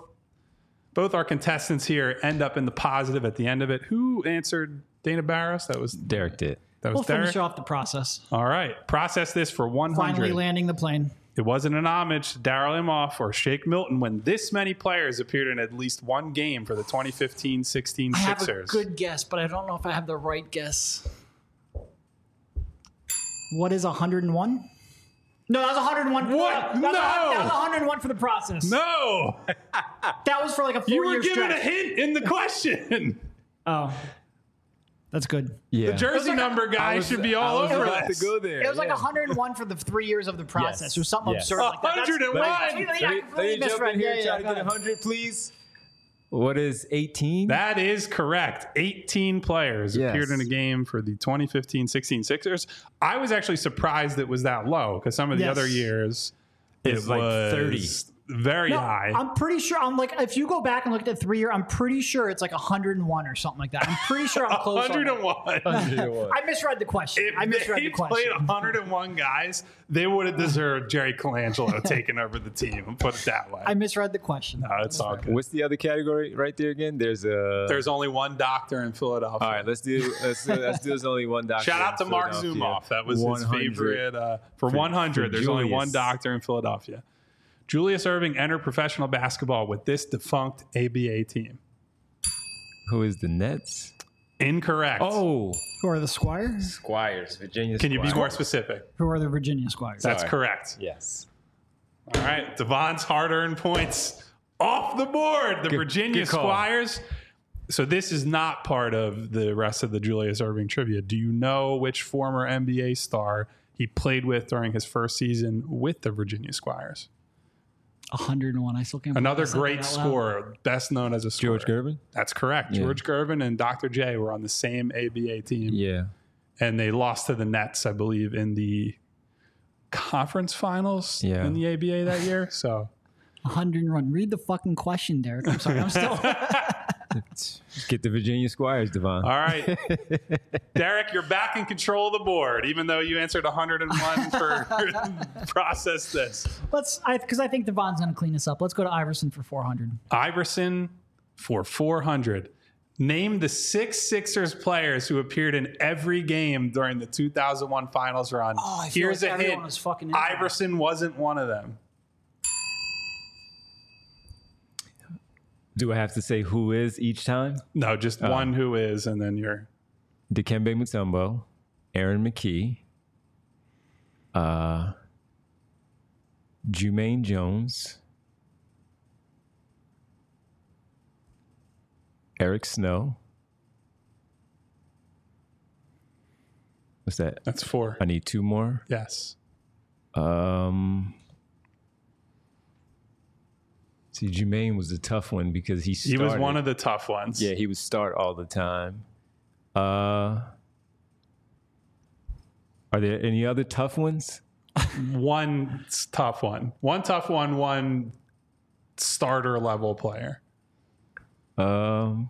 Both our contestants here end up in the positive at the end of it. Who answered Dana Barros? That was Derek did. That was We'll Derek. finish off the process. All right. Process this for one hundred. Finally landing the plane. It wasn't an homage to Darryl Imhoff or Shake Milton when this many players appeared in at least one game for the twenty fifteen sixteen I have Sixers. a good guess, but I don't know if I have the right guess. What is one hundred one? No, that was one hundred one. What? That was, No. That was one hundred one for the process. No. That was for like a four You were year given stretch. a hint in the question. Oh, that's good. Yeah. The jersey like a- number guy was- should be I all was over about this. to go there. It was like yeah. one hundred one for the three years of the process. Yes. It was something Yes. absurd like that. That's- one hundred one. Yeah, Let me, I let me completely jump misread. in here Yeah, and yeah, try to go get ahead. one hundred, please. What is eighteen? That is correct. eighteen players Yes. appeared in a game for the twenty fifteen sixteen Sixers. I was actually surprised it was that low because some of the Yes. other years It's it like was thirty. very No, high. I'm pretty sure. I'm like, if you go back and look at the three year, I'm pretty sure it's like one hundred one or something like that. I'm pretty sure I'm close. on that. one hundred one. I misread the question. If I misread they the question. played one hundred one guys, they would have deserved Jerry Colangelo taking over the team. I'll put it that way. I misread the question. no, it's all good. What's the other category right there again? There's a. There's only one doctor in Philadelphia. All right, let's do let's do, let's do there's only one doctor. Shout out to in Mark Philadelphia. Zumoff. That was his one hundred. favorite. Uh, for, For- one hundred, for there's only one Julius. doctor in Philadelphia. Julius Erving entered professional basketball with this defunct A B A team. Who is the Nets? Incorrect. Oh, Who are the Squires? Squires, Virginia. Can you be Squires. more specific? Who are the Virginia Squires? That's Sorry. correct. Yes. All right. Devon's hard-earned points off the board. The Good- Virginia good call. Squires. So this is not part of the rest of the Julius Erving trivia. Do you know which former N B A star he played with during his first season with the Virginia Squires? one hundred one. I still can't. believe Another I said great that out loud. scorer, best known as a scorer. George Gervin? That's correct. Yeah. George Gervin and Doctor J were on the same A B A team, Yeah. and they lost to the Nets, I believe, in the conference finals Yeah. in the A B A that year. So one hundred one. Read the fucking question, Derek. I'm sorry. I'm still. Get the Virginia Squires, Devon. all right, Derek, you're back in control of the board, even though you answered one hundred one for process this. Let's. I because I think Devon's going to clean this up. Let's go to Iverson for four hundred. Iverson for four hundred. Name the six Sixers players who appeared in every game during the two thousand one finals run. Oh, I feel Here's like a everyone hint. was fucking into that. Iverson wasn't one of them. Do I have to say who is each time? No, just one who is, and then you're Dikembe Mutombo, Aaron McKee, uh, Jermaine Jones, Eric Snow. What's that? that's four. I need two more. Yes. Um, see, Jermaine was a tough one because he He started. was one of the tough ones. Yeah, he would start all the time. Uh, are there any other tough ones? One s- tough one. One tough one, one starter level player. Um,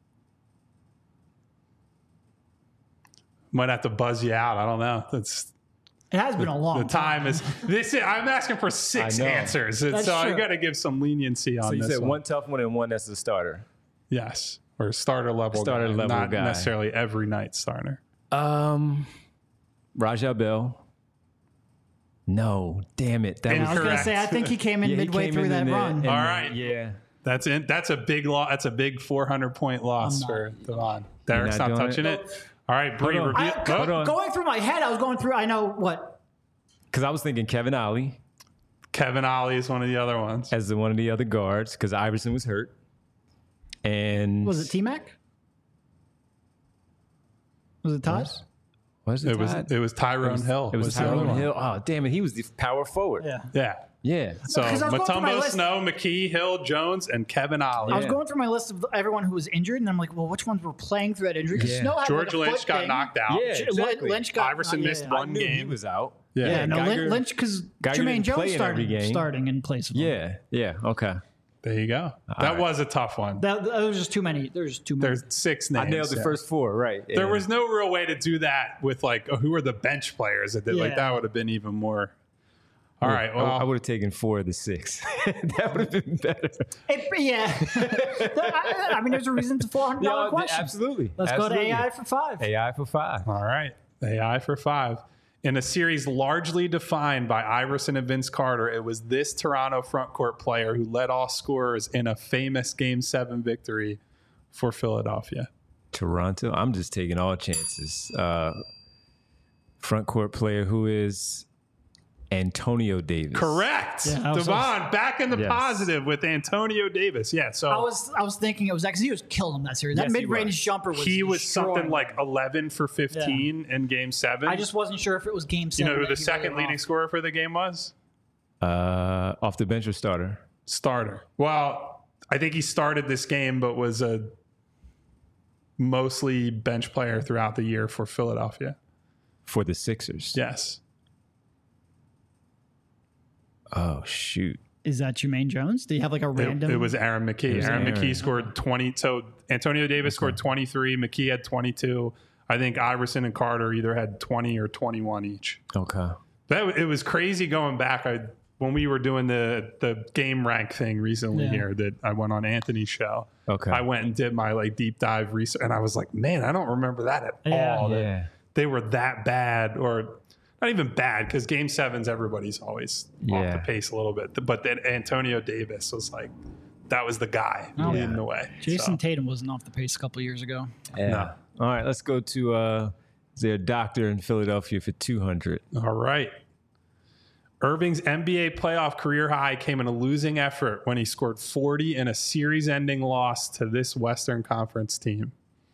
Might have to buzz you out. I don't know. That's It has been a long the time is this is, I'm asking for six I know. answers. And That's so I true. got to give some leniency on so you this said one. one tough one and one that's a starter. Yes. Or starter level Starter guy, level not guy. necessarily every night starter. Um, Rajah Bell. No, damn it. That I was was going to Correct. say, I think he came in Yeah, he midway came through in that in there run. and All then- right. Yeah. That's in, that's a big lo- That's a big four hundred point loss I'm for not- Devon. Derek's not not, doing touching it? it. All right, Bree, Hold on. reveal. I, oh, Hold on. Going through my head, I was going through, I know what. Because I was thinking Kevin Ollie Kevin Ollie is one of the other ones. as the, one of the other guards because Iverson was hurt. And Was it T Mac? Was it Todd? Was it? It was Todd? it was Tyrone Hill. It was the other Tyrone one. Hill. Oh, damn it. He was the power forward. Yeah. Yeah. Yeah. So 'Cause I was going through my Mutombo, list. Snow, McKee, Hill, Jones, and Kevin Ollie. I was Yeah. going through my list of everyone who was injured, and I'm like, well, which ones were playing through that injury? Because Yeah. Snow had George like a Lynch foot got thing. knocked out. Yeah. J- exactly. Lynch got Iverson yeah, missed yeah. one I knew he game. was out. Yeah. Yeah, no, Geiger- Lynch, Lynch because Geiger Jermaine didn't Jones play in every started game. starting in place of him. Yeah. Yeah. Okay. There you go. that right. was a tough one. That, that was just too many. There's too many. There's six names. I nailed the yeah. first four, right. There And- was no real way to do that with like, oh, who are the bench players that did like Yeah. that would have been even more. All right. I- Well, I, would have taken four of the six. That would have been better. It- yeah. I, I mean, there's a reason it's a four hundred dollars Yeah, question. absolutely. Let's Absolutely. go to A I for five. A I for five. all right. A I for five. In a series largely defined by Iverson and Vince Carter, it was this Toronto frontcourt player who led all scorers in a famous Game seven victory for Philadelphia. Toronto. I'm just taking all chances. Uh, front court player who is Antonio Davis. Correct. Yeah, I was- Devon, back in the Yes. positive with Antonio Davis. Yeah, so I was I was thinking it was that because he was killing him that series. That Yes, he mid range was. jumper was he was destroying something him. like eleven for fifteen in Game seven. I just wasn't sure if it was game you seven. know who that the he second really leading off. scorer for the game was? Uh, off the bench or starter? Starter. Well, I think he started this game, but was a mostly bench player throughout the year for Philadelphia. For the Sixers. Yes. Oh, shoot. Is that Jermaine Jones? Do you have like a It, random? it was Aaron McKee. was Aaron, Aaron. McKee scored twenty. So Antonio Davis scored twenty-three. McKee had twenty-two. I think Iverson and Carter either had twenty or twenty-one each. Okay. That it was crazy going back. I when we were doing the the game rank thing recently Yeah. here that I went on Anthony's show. Okay. I went and did my like deep dive research, and I was like, man, I don't remember that at Yeah. all. that Yeah. They were that bad, or not even bad, because game sevens, everybody's always off Yeah. the pace a little bit. But then Antonio Davis was like, that was the guy Oh, leading yeah. the way. Jason So, Tatum wasn't off the pace a couple years ago. Yeah. No. All right, let's go to uh, is there a doctor in Philadelphia for two hundred? all right. Irving's N B A playoff career high came in a losing effort when he scored forty in a series-ending loss to this Western Conference team.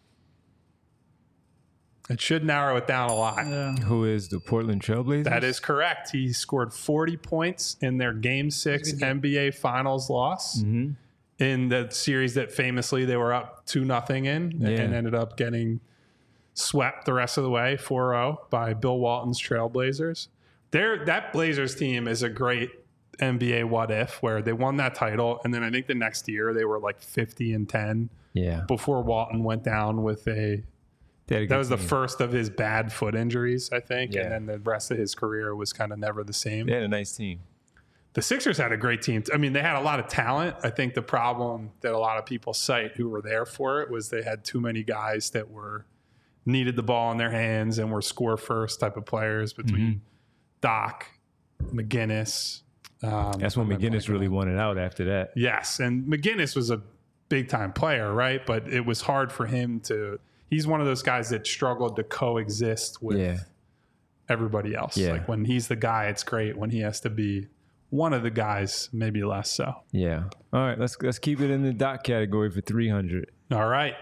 It should narrow it down a lot. Yeah. Who is the Portland Trailblazers? That is correct. He scored forty points in their Game Six N B A Finals loss Mm-hmm. in the series that famously they were up two nothing in Yeah. and ended up getting swept the rest of the way four oh by Bill Walton's Trailblazers. There, that Blazers team is a great N B A what if, where they won that title, and then I think the next year they were like fifty and ten Yeah. before Walton went down with a. They had a That good was the team. first of his bad foot injuries, I think, Yeah. and then the rest of his career was kind of never the same. They had a nice team. The Sixers had a great team. I mean, they had a lot of talent. I think the problem that a lot of people cite who were there for it was they had too many guys that were needed the ball in their hands and were score first type of players between Mm-hmm. Doc, McGinnis. Um, That's when I'm McGinnis blanking really on- wanted out after that. Yes, and McGinnis was a big time player, right? But it was hard for him to. He's one of those guys that struggled to coexist with Yeah. everybody else. Yeah. Like when he's the guy, it's great. When he has to be one of the guys, maybe less so. Yeah. All right, let's let's keep it in the doc category for three hundred. All right.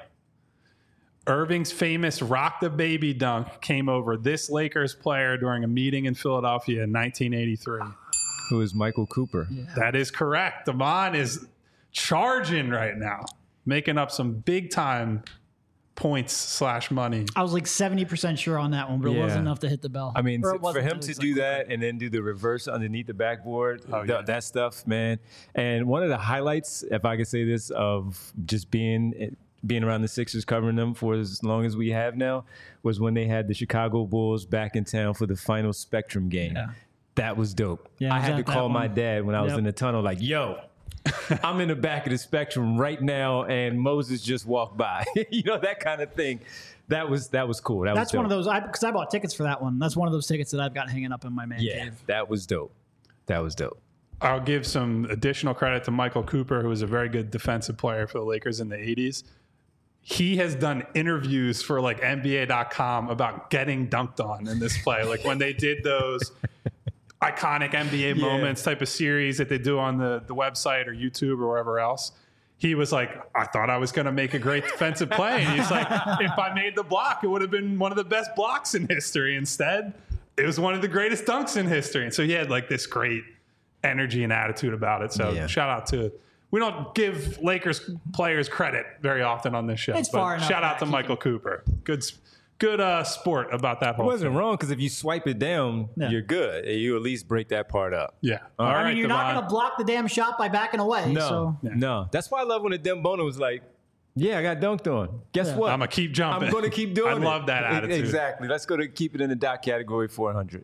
Irving's famous rock the baby dunk came over this Lakers player during a meeting in Philadelphia in nineteen eighty-three. Who is Michael Cooper? That is correct. Damon is charging right now, making up some big time points slash money. I was like seventy percent sure on that one, but it Yeah. wasn't enough to hit the bell. I mean, Or to- it for wasn't, him it to was do like- that and then do the reverse underneath the backboard, Oh, th- yeah. that stuff, man. And one of the highlights, if I could say this, of just being being around the Sixers, covering them for as long as we have now, was when they had the Chicago Bulls back in town for the final Spectrum game. Yeah. That was dope. Yeah, I I was had to at that call my one. dad when I was Yep. in the tunnel, like, yo, I'm in the back of the Spectrum right now, and Moses just walked by. You know, that kind of thing. That was that was cool. That That's was one of dope. those, I because I bought tickets for that one. That's one of those tickets that I've got hanging up in my man Yeah, cave. that was dope. That was dope. I'll give some additional credit to Michael Cooper, who was a very good defensive player for the Lakers in the eighties. He has done interviews for like N B A dot com about getting dunked on in this play. Like when they did those iconic N B A moments type of series that they do on the, the website or YouTube or wherever else. He was like, I thought I was going to make a great defensive play. And he's like, if I made the block, it would have been one of the best blocks in history. Instead, it was one of the greatest dunks in history. And so he had like this great energy and attitude about it. So Yeah. shout out to, we don't give Lakers players credit very often on this show. It's but far enough shout out back. to He Michael Cooper. Good, s- good uh, sport about that It whole wasn't thing. wrong because if you swipe it down, Yeah. you're good. You at least break that part up. Yeah. All All right. I right, mean, you're not Devon. going to block the damn shot by backing away. No, So no. That's why I love when the Dembona was like, "Yeah, I got dunked on. Guess Yeah. what? I'm gonna keep jumping. I'm going to keep doing I it." love that E- attitude. Exactly. Let's go to keep it in the dot category four hundred.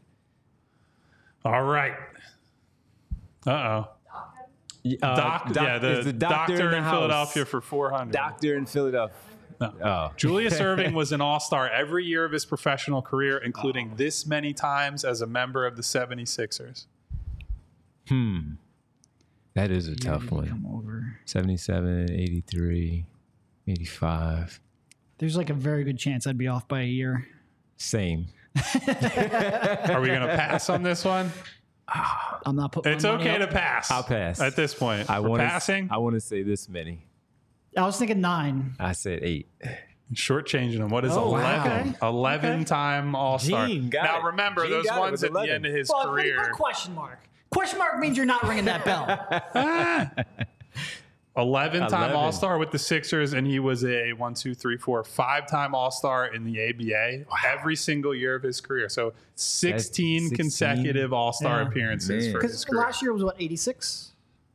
All right. Uh oh. Uh, Doc, doc- yeah, the, is doctor, in, the in house. Philadelphia for four hundred. Doctor in Philadelphia. No. Oh, Julius Erving was an all-star every year of his professional career, including this many times as a member of the seventy-sixers. that is a tough Did he one. come over? seventy-seven, eighty-three, eighty-five. There's like a very good chance I'd be off by a year. Same. Are we going to pass on this one? I'm not putting. It's my money okay up. to pass. I'll pass. At this point. I For want passing, I want to say this many. I was thinking nine. I said eight. shortchanging him. What is Oh, wow. eleven? Okay. eleven-time All-Star. Gene got now, it. remember, Gene those got it ones with at the eleven. end of his Well, but he career. put question mark. Question mark means you're not ringing that bell. eleven-time eleven. All-Star with the Sixers, and he was a one, two, three, four, five-time All-Star in the A B A every single year of his career. So sixteen sixteen. consecutive All-Star Yeah. appearances Man. for his Because career. last year was what, eighty-six?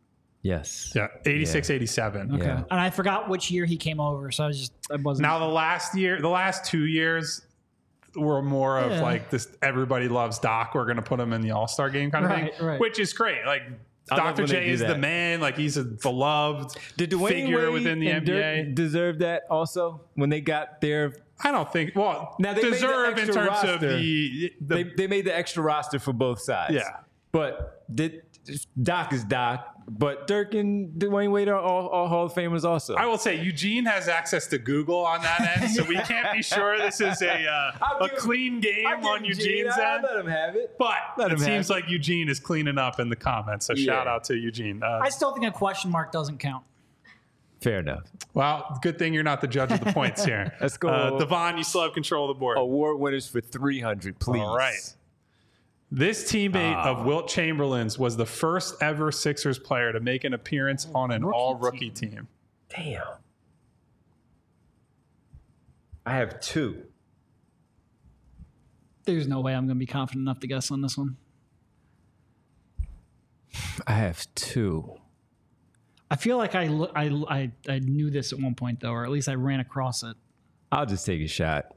Yes. Yeah, eighty-six, eighty-seven. Okay. Yeah. And I forgot which year he came over, so I was just I wasn't. Now the last year, the last two years were more of Yeah. like this. Everybody loves Doc. We're going to put him in the All Star game kind of Right, thing, right. which is great. Like I love Doctor when they J do is the that. man. Like he's a beloved Did Dwayne figure Wade within the and N B A. Dirk deserve that also when they got their? I don't think. Well, Now, they made the deserve in extra terms of roster. the the They they made the extra roster for both sides. Yeah. But did Doc is Doc, but Dirk and Dwayne Wade are all, all Hall of Famers also. I will say Eugene has access to Google on that end, so we can't be sure this is a uh, I'll a give- clean game I give on Eugene- Eugene's I- end. Let him have it. But Let it him have seems it. like Eugene is cleaning up in the comments. So shout Yeah. out to Eugene. Uh, I still think a question mark doesn't count. Fair enough. well, good thing you're not the judge of the points here. Let's go. Uh, Devon, you still have control of the board. Award winners for three hundred, please. All right. This teammate Ah. of Wilt Chamberlain's was the first ever Sixers player to make an appearance on an Rookie all rookie team. Damn. I have two. There's no way I'm going to be confident enough to guess on this one. I have two. I feel like I, lo- I, I, I knew this at one point, though, or at least I ran across it. I'll just take a shot.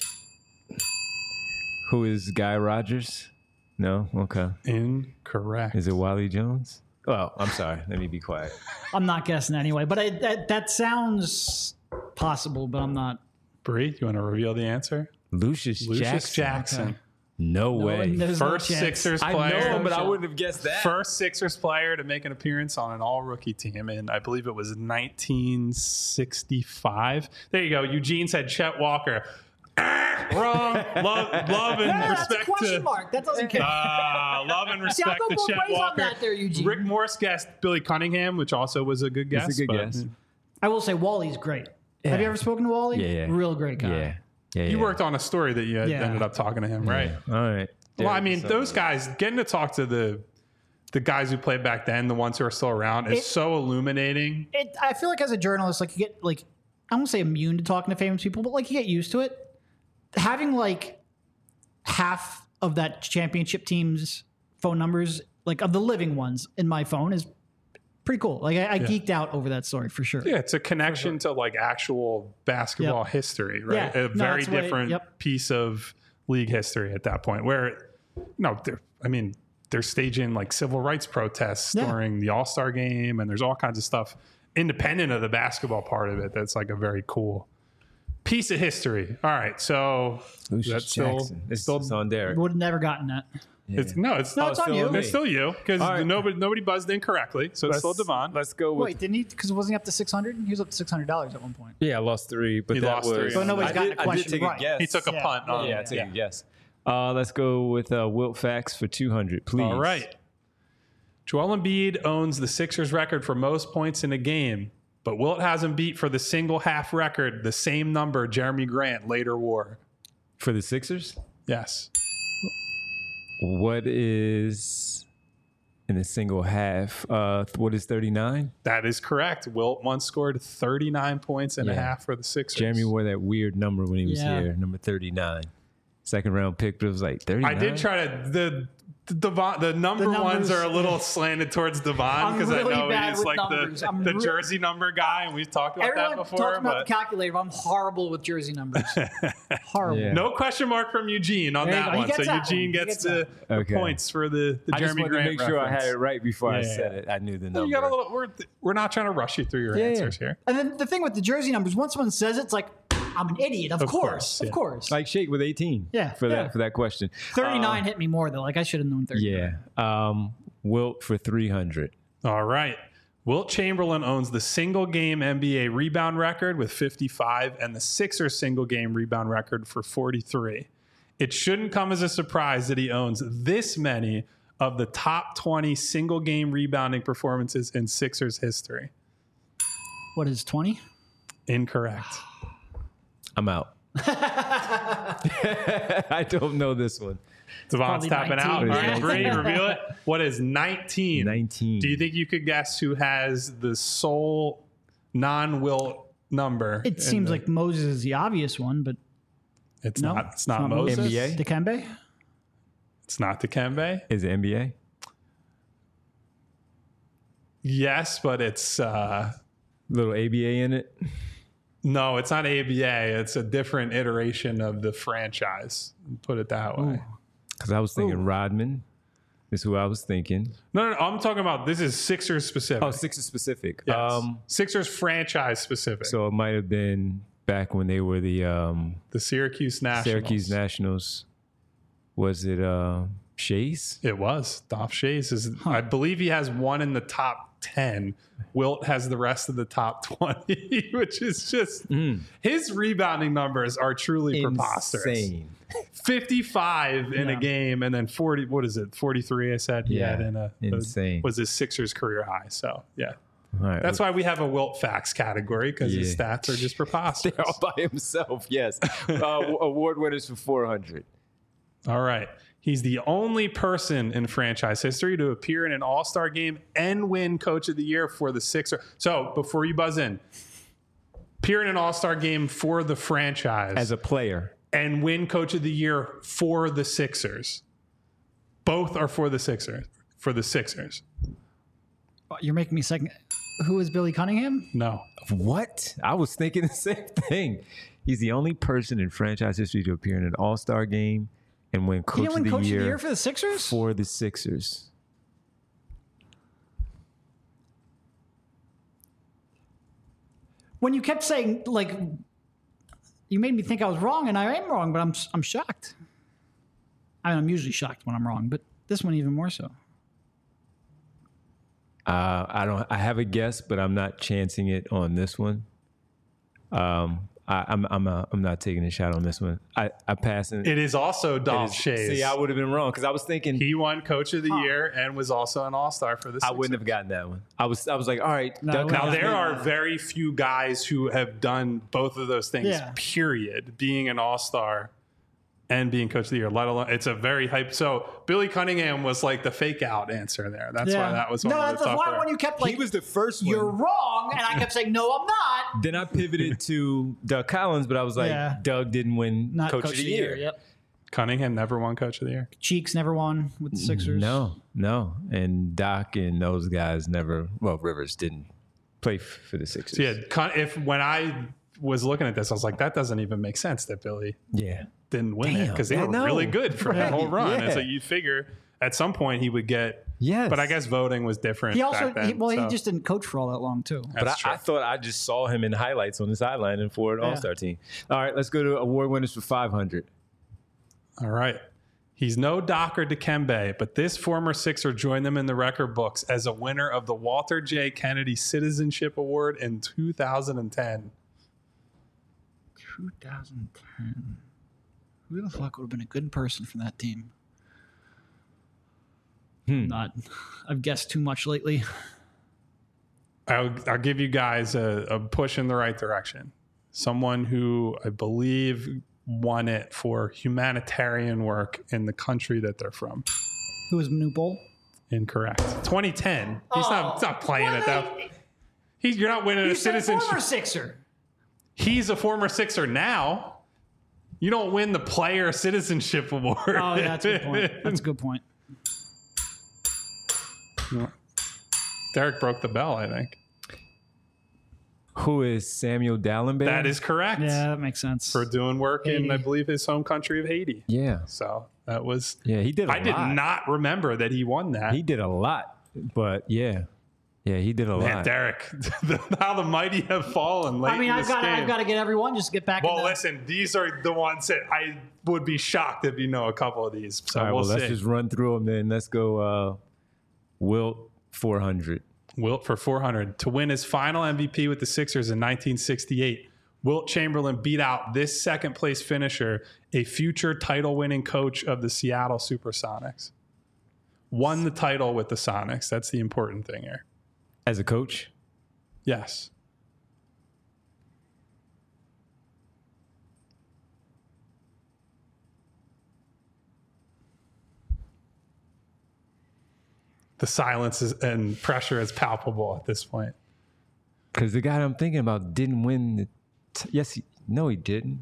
Who is Guy Rogers? No? Okay. Incorrect. Is it Wally Jones? Oh, I'm sorry. Let me be quiet. I'm not guessing anyway, but I, that, that sounds possible, but I'm not. Bree, do you want to reveal the answer? Lucius, Lucius Jackson. Jackson. Okay. No, way. there's no First chance. Sixers I player. know him, but I shot. wouldn't have guessed that. First Sixers player to make an appearance on an all rookie team, and I believe it was nineteen sixty-five. There you go. Eugene said Chet Walker. Ah, wrong. Love, love and Yeah, that's a respect question to mark. That doesn't count. uh, love and See, I'll respect go to both Chet ways on Walker. that there, Eugene. Rick Morris guessed Billy Cunningham, which also was a good guess. That's a good but- guess. I will say Wally's great. Have you ever spoken to Wally? Yeah, yeah. Real great guy. Yeah. Yeah. You yeah. worked on a story that you had Yeah. ended up talking to him, right? All right. Well, I There mean, it is. those guys getting to talk to the the guys who played back then, the ones who are still around, is It- so illuminating. It, I feel like as a journalist, like you get like I won't say immune to talking to famous people, but like you get used to it. Having like half of that championship team's phone numbers, like of the living ones, in my phone is pretty cool. Like I, I geeked out over that story for sure. Yeah, it's a connection to like actual basketball Yep. history, right? Yeah. A No, very that's the way- different yep. piece of league history at that point. Where, no, they're, I mean, they're staging like civil rights protests Yeah. during the All Star game, and there's all kinds of stuff independent of the basketball part of it. That's like a very cool piece of history. All right, so Lucius that's still, Jackson. It's, still it's on Derek. Would have never gotten that. it's no, it's No, not it's on still you. on me. It's still you because All right. nobody nobody buzzed in correctly, so it's still Devon. Let's go with. Wait, didn't he? Because wasn't he up to six hundred? He was up to six hundred dollars at one point. Yeah, I lost three, but He that lost was. three. So nobody's I gotten did- a question I did take right. a guess. He took a Yeah. punt on Yeah, it. I take a guess. Uh, let's go with uh, Wilt Facts for two hundred, please. All right. Joel Embiid owns the Sixers record for most points in a game, but Wilt has him beat for the single half record, the same number Jeremy Grant later wore. For the Sixers, Yes. what is in a single half? Uh, what is thirty-nine? That is correct. Wilt once scored thirty-nine points and a Yeah. half for the Sixers. Jeremy wore that weird number when he was Yeah. here, number thirty-nine. Second round pick, but it was like thirty-nine. I did try to the the, Devon, the number The ones numbers- are a little slanted towards Devon I'm because really I know bad he's with like numbers. the, I'm the re- jersey number guy, and we've talked about Everyone that talks before. about But the calculator, but I'm horrible with jersey numbers. Horrible. Yeah. no question mark from Eugene on There you that go. He one. gets So that Eugene one. He gets, gets the, that. the Okay. points for the, the I just Jeremy wanted Grant to make sure I reference. had it right before I Yeah, said yeah. it. I knew the number. You got a little. We're we're not trying to rush you through your Yeah, yeah. answers here. And then the thing with the jersey numbers, once someone says it, it's like, I'm an idiot. Of, Of course. course, Of yeah. course. like Shake with eighteen. Yeah, For yeah. that for that question. thirty-nine Uh, hit me more, though. Like, I should have known thirty. Yeah. Um, Wilt for three hundred. All right. Wilt Chamberlain owns the single game N B A rebound record with fifty-five and the Sixers single game rebound record for forty-three. It shouldn't come as a surprise that he owns this many of the top twenty single game rebounding performances in Sixers history. What is twenty? Incorrect. I'm out. I don't know this one. Devon's Probably tapping out. All nineteen. right, Bree, reveal it. What is nineteen? nineteen. Do you think you could guess who has the sole non-Wilt number? It in seems the- like Moses is the obvious one, but it's no. not. It's not, not Moses. N B A? Dikembe? It's not Dikembe. Is it N B A? Yes, but it's uh, Little A B A in it. no, it's not A B A. It's a different iteration of the franchise. Put it that way. Because I was thinking Ooh. Rodman is who I was thinking. No, no, no, I'm talking about this is Sixers specific. Oh, Sixers specific. Yes. Um, Sixers franchise specific. so it might have been back when they were the um, the Syracuse Nationals. Syracuse Nationals. Was it uh, Shays? It was. Dolph Shays is. I believe he has one in the top ten. Wilt has the rest of the top twenty, which is just his rebounding numbers are truly preposterous. Insane. fifty-five in Yeah. a game, and then forty. What is it? forty-three. I said he Yeah, had in a insane. was his Sixers career high. So yeah, All right. that's why we have a Wilt facts category because his Yeah. stats are just preposterous. They're all by himself. Yes. uh, award winners for four hundred. All right. He's the only person in franchise history to appear in an All-Star game and win Coach of the Year for the Sixers. So before you buzz in, appear in an All-Star game for the franchise As a player. and win Coach of the Year for the Sixers. Both are for the Sixers. For the Sixers. You're making me second. Who is Billy Cunningham? No. What? I was thinking the same thing. He's the only person in franchise history to appear in an All-Star game and win He Coach, didn't of, win the Coach year of the Year for the Sixers? for the Sixers. When you kept saying, like, you made me think I was wrong, and I am wrong, but I'm I'm shocked. I mean, I'm usually shocked when I'm wrong, but this one even more so. Uh, I don't. I have a guess, but I'm not chancing it on this one. Um, I, I'm I'm uh, I'm not taking a shot on this one. I I pass it. It is also Dolph is- Shays. See, I would have been wrong because I was thinking He won Coach of the Year and was also an All-Star for the I Sixers. wouldn't have gotten that one. I was I was like, all right. No, Doug we- Now, Collins- there are very few guys who have done both of those things, Yeah. period. Being an all-star and being Coach of the Year, let alone, it's a very hype. So, Billy Cunningham was like the fake out answer there. That's why that was one no, of that's the why tougher. when you kept like, he was the first one. you're wrong, and I kept saying, no, I'm not. Then I pivoted to Doug Collins, but I was like, Yeah. Doug didn't win Not Coach, of the Year. Yep. Cunningham never won Coach of the Year. Cheeks never won with the Sixers. No, no. And Doc and those guys never, well, Rivers didn't play f- for the Sixers. So, yeah, Cun- if when I was looking at this, I was like, that doesn't even make sense that Billy Yeah. didn't win it Damn, because they I were know. really good for that Right, whole run. And yeah. so you figure at some point he would get, Yes. but I guess voting was different. He also, back then, he, well, so he just didn't coach for all that long, too. But I, that's true. I thought I just saw him in highlights on the sideline and for an Yeah. All-Star team. All right, let's go to award winners for five hundred. All right. He's no Doc or Dikembe, but this former Sixer joined them in the record books as a winner of the Walter J. Kennedy Citizenship Award in two thousand ten. two thousand ten. Who the fuck would have been a good person from that team? Not. I've guessed too much lately. I'll, I'll give you guys a, a push in the right direction. Someone who I believe won it for humanitarian work in the country that they're from. Who was Manu Bowl? Incorrect. twenty ten. He's not, he's not playing What at that. they- He's, you're not winning You a said citizenship. former Sixer. He's a former Sixer now. You don't win the player citizenship award. Oh, yeah, that's a good point. That's a good point. Derek broke the bell, I think. Who is Samuel Dallenberg? That is correct. Yeah, that makes sense. For doing work in, Haiti. I believe, his home country of Haiti. Yeah. So that was. Yeah, he did a I did lot. not remember that he won that. He did a lot, but yeah. Yeah, he did a Man, lot. Derek, how the mighty have fallen late I mean, in I've this got game. I've got to get everyone just to get back. well, in the, listen, these are the ones that I would be shocked if you know a couple of these. So All right, we'll, well, let's see. just run through them then. Let's go uh, Wilt, four hundred. Wilt for four hundred. To win his final M V P with the Sixers in nineteen sixty-eight, Wilt Chamberlain beat out this second place finisher, a future title winning coach of the Seattle Supersonics. Won the title with the Sonics. That's the important thing here. As a coach? Yes. The silence is, and pressure is palpable at this point. Because the guy I'm thinking about didn't win the. T- yes, he, no, he didn't.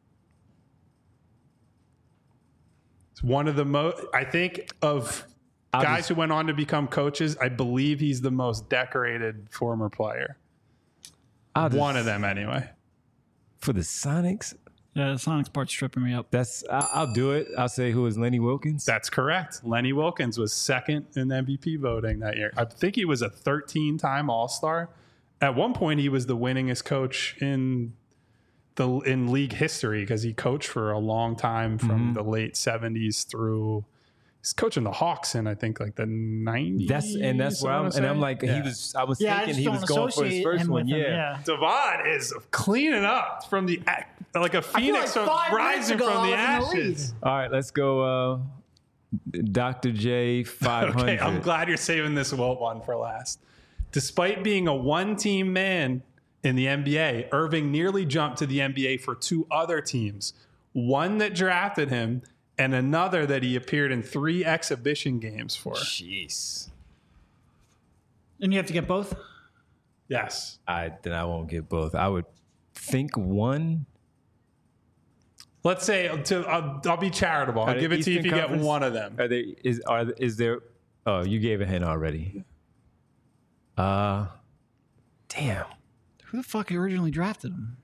It's one of the most, I think, of I'll guys just- who went on to become coaches, I believe he's the most decorated former player. I'll just- One of them, anyway. for the Sonics. Yeah, the Sonics part's tripping me up. That's I, I'll do it. I'll say who is Lenny Wilkins. That's correct. Lenny Wilkins was second in M V P voting that year. I think he was a thirteen-time All-Star. At one point, he was the winningest coach in the in league history because he coached for a long time from Mm-hmm. the late seventies through. He's coaching the Hawks in I think like the nineties. That's and that's where I I'm wanna and I'm say. like Yeah. he was. I was Yeah, I thinking just he don't was going for his associate first him one. with him, Yeah. yeah. Devon is cleaning up from the like a phoenix like from- five minutes rising ago from the I was in the lead. ashes. All right, let's go. Uh, Doctor J five hundred. Okay, I'm glad you're saving this Wilt one for last. Despite being a one-team man in the N B A, Irving nearly jumped to the N B A for two other teams. One that drafted him and another that he appeared in three exhibition games for. Jeez. And you have to get both? Yes. I then I won't get both. I would think one. Let's say to, I'll, I'll be charitable. I'll they give it to you if Eastern you get Conference? one of them. Are there is are is there? Oh, you gave a hint already. Uh, damn. Who the fuck originally drafted him?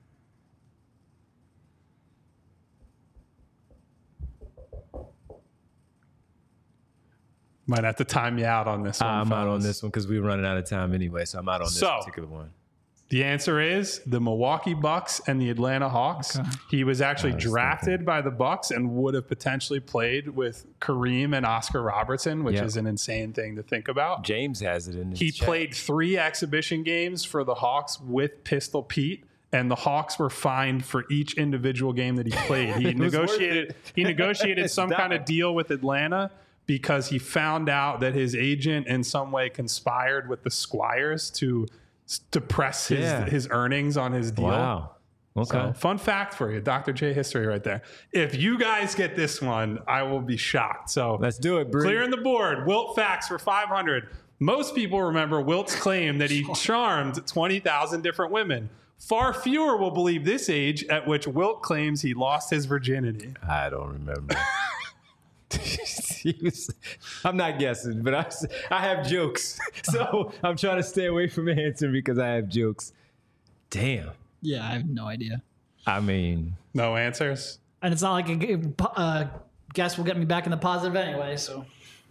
Might have to time you out on this one. I'm out on fellas. this one because we were running out of time anyway, so I'm out on this So- particular one. The answer is the Milwaukee Bucks and the Atlanta Hawks. He was actually was drafted by the Bucks and would have potentially played with Kareem and Oscar Robertson, which Yeah. is an insane thing to think about. James has it in his He chat. played three exhibition games for the Hawks with Pistol Pete, and the Hawks were fined for each individual game that he played. He It was worth negotiated he negotiated some kind of Stop. deal with Atlanta because he found out that his agent in some way conspired with the Squires to s- depress his Yeah. his earnings on his deal. Wow. Okay. So, fun fact for you, Doctor J history right there. If you guys get this one, I will be shocked. So Let's do it, Bree. clearing the board. Wilt facts for five hundred. Most people remember Wilt's claim that he charmed twenty thousand different women. Far fewer will believe this age at which Wilt claims he lost his virginity. I don't remember. He was- I'm not guessing, but I, s- I have jokes. So I'm trying to stay away from answering because I have jokes. Damn. Yeah, I have no idea. I mean, No answers? And it's not like a g- uh, guess will get me back in the positive anyway, so.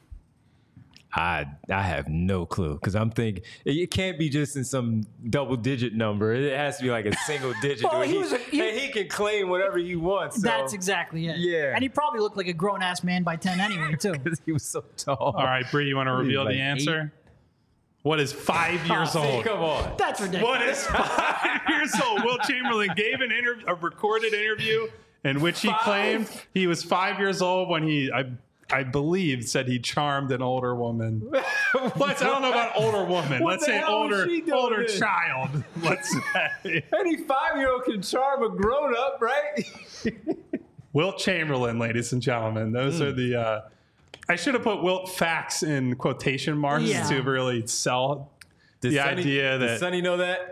I I have no clue because I'm thinking it, it can't be just in some double digit number. It has to be like a single digit. Well, where he he, was a- he- and he can claim whatever he wants. So, That's exactly it. Yeah. And he probably looked like a grown ass man by ten anyway, too. because he was so tall. All right, Bree, you want to reveal like the answer? What is five years See, old? come on. That's ridiculous. What is five years old? Will Chamberlain gave an interview, a recorded interview in which he Five? claimed he was five years old when he, I, I believe, said he charmed an older woman. Let's, I don't know about older woman. What Let's the say hell was older, she doing older then? child. Let's say Any five year old can charm a grown up, right? Wilt Chamberlain, ladies and gentlemen. Those are the. Uh, I should have put Wilt facts in quotation marks Yeah. to really sell Does the Sonny- idea does that. Sonny know that?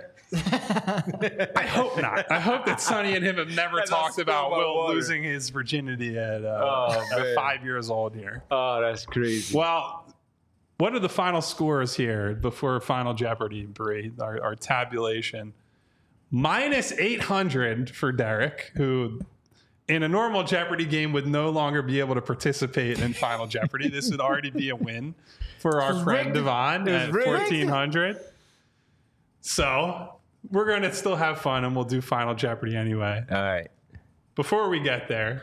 I hope not. I hope that Sonny and him have never As I talked spill about my Wilt water. losing his virginity at, uh, Oh, at man. five years old here. Oh, that's crazy. Well, what are the final scores here before Final Jeopardy, Bree? Our, our tabulation. Minus eight hundred for Derek, who in a normal Jeopardy game would no longer be able to participate in Final Jeopardy. This would already be a win for our was friend rigged. Devon It was at rigged. fourteen hundred. So we're going to still have fun and we'll do Final Jeopardy anyway. All right. Before we get there,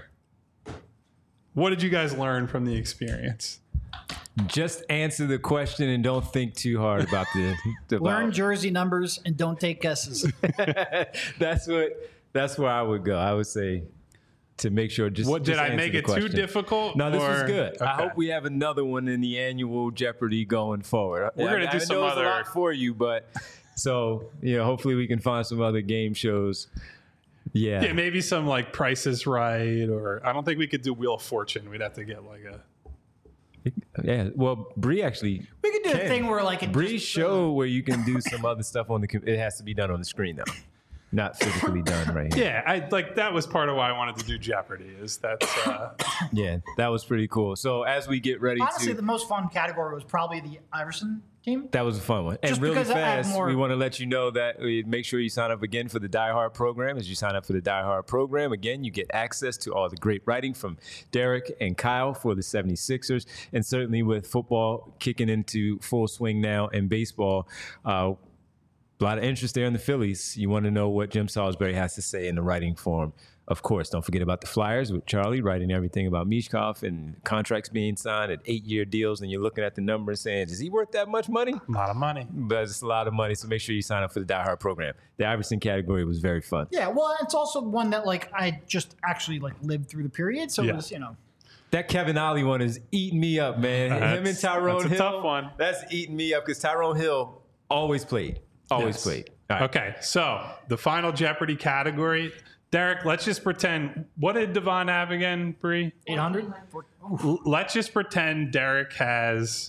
what did you guys learn from the experience? Just answer the question and don't think too hard about the. About, Learn jersey numbers and don't take guesses. that's what. That's where I would go. I would say to make sure. Just What did just I answer make the it too question. difficult? No, this was or- good. I Okay. hope we have another one in the annual Jeopardy going forward. We're I- gonna do I some know it's other- a lot for you, but so you know, hopefully we can find some other game shows. Yeah, Yeah, maybe some like Price is Right, or I don't think we could do Wheel of Fortune. We'd have to get like a. yeah. Well, Bree actually. We could do a Can. thing where, like, it Bree just, show where you can do some other stuff on the. com- It has to be done on the screen though. not physically done right here. Yeah, I like that was part of why I wanted to do Jeopardy. Is that's uh, Yeah, that was pretty cool. So as we get ready Honestly, to, the most fun category was probably the Iverson team. that was a fun one. And Just really because I had fast, more- we want to let you know that we make sure you sign up again for the Die Hard program. As you sign up for the Die Hard program, again, you get access to all the great writing from Derek and Kyle for the seventy-sixers. And certainly with football kicking into full swing now and baseball, uh, a lot of interest there in the Phillies. You want to know what Jim Salisbury has to say in the writing form. Of course, don't forget about the Flyers with Charlie writing everything about Mishkov and contracts being signed at eight-year deals, and you're looking at the number and saying, is he worth that much money? a lot of money. But it's a lot of money, so make sure you sign up for the Die Hard program. The Iverson category was very fun. Yeah, well, it's also one that like I just actually like lived through the period, so Yeah. it was you know. That Kevin Ollie one is eating me up, man. Him and That's- Tyrone that's a Hill. tough one. That's eating me up because Tyrone Hill always played. Always Yes. played. All right. Okay, so the final Jeopardy category. Derek, let's just pretend. What did Devon have again, Bree? eight hundred? L- Let's just pretend Derek has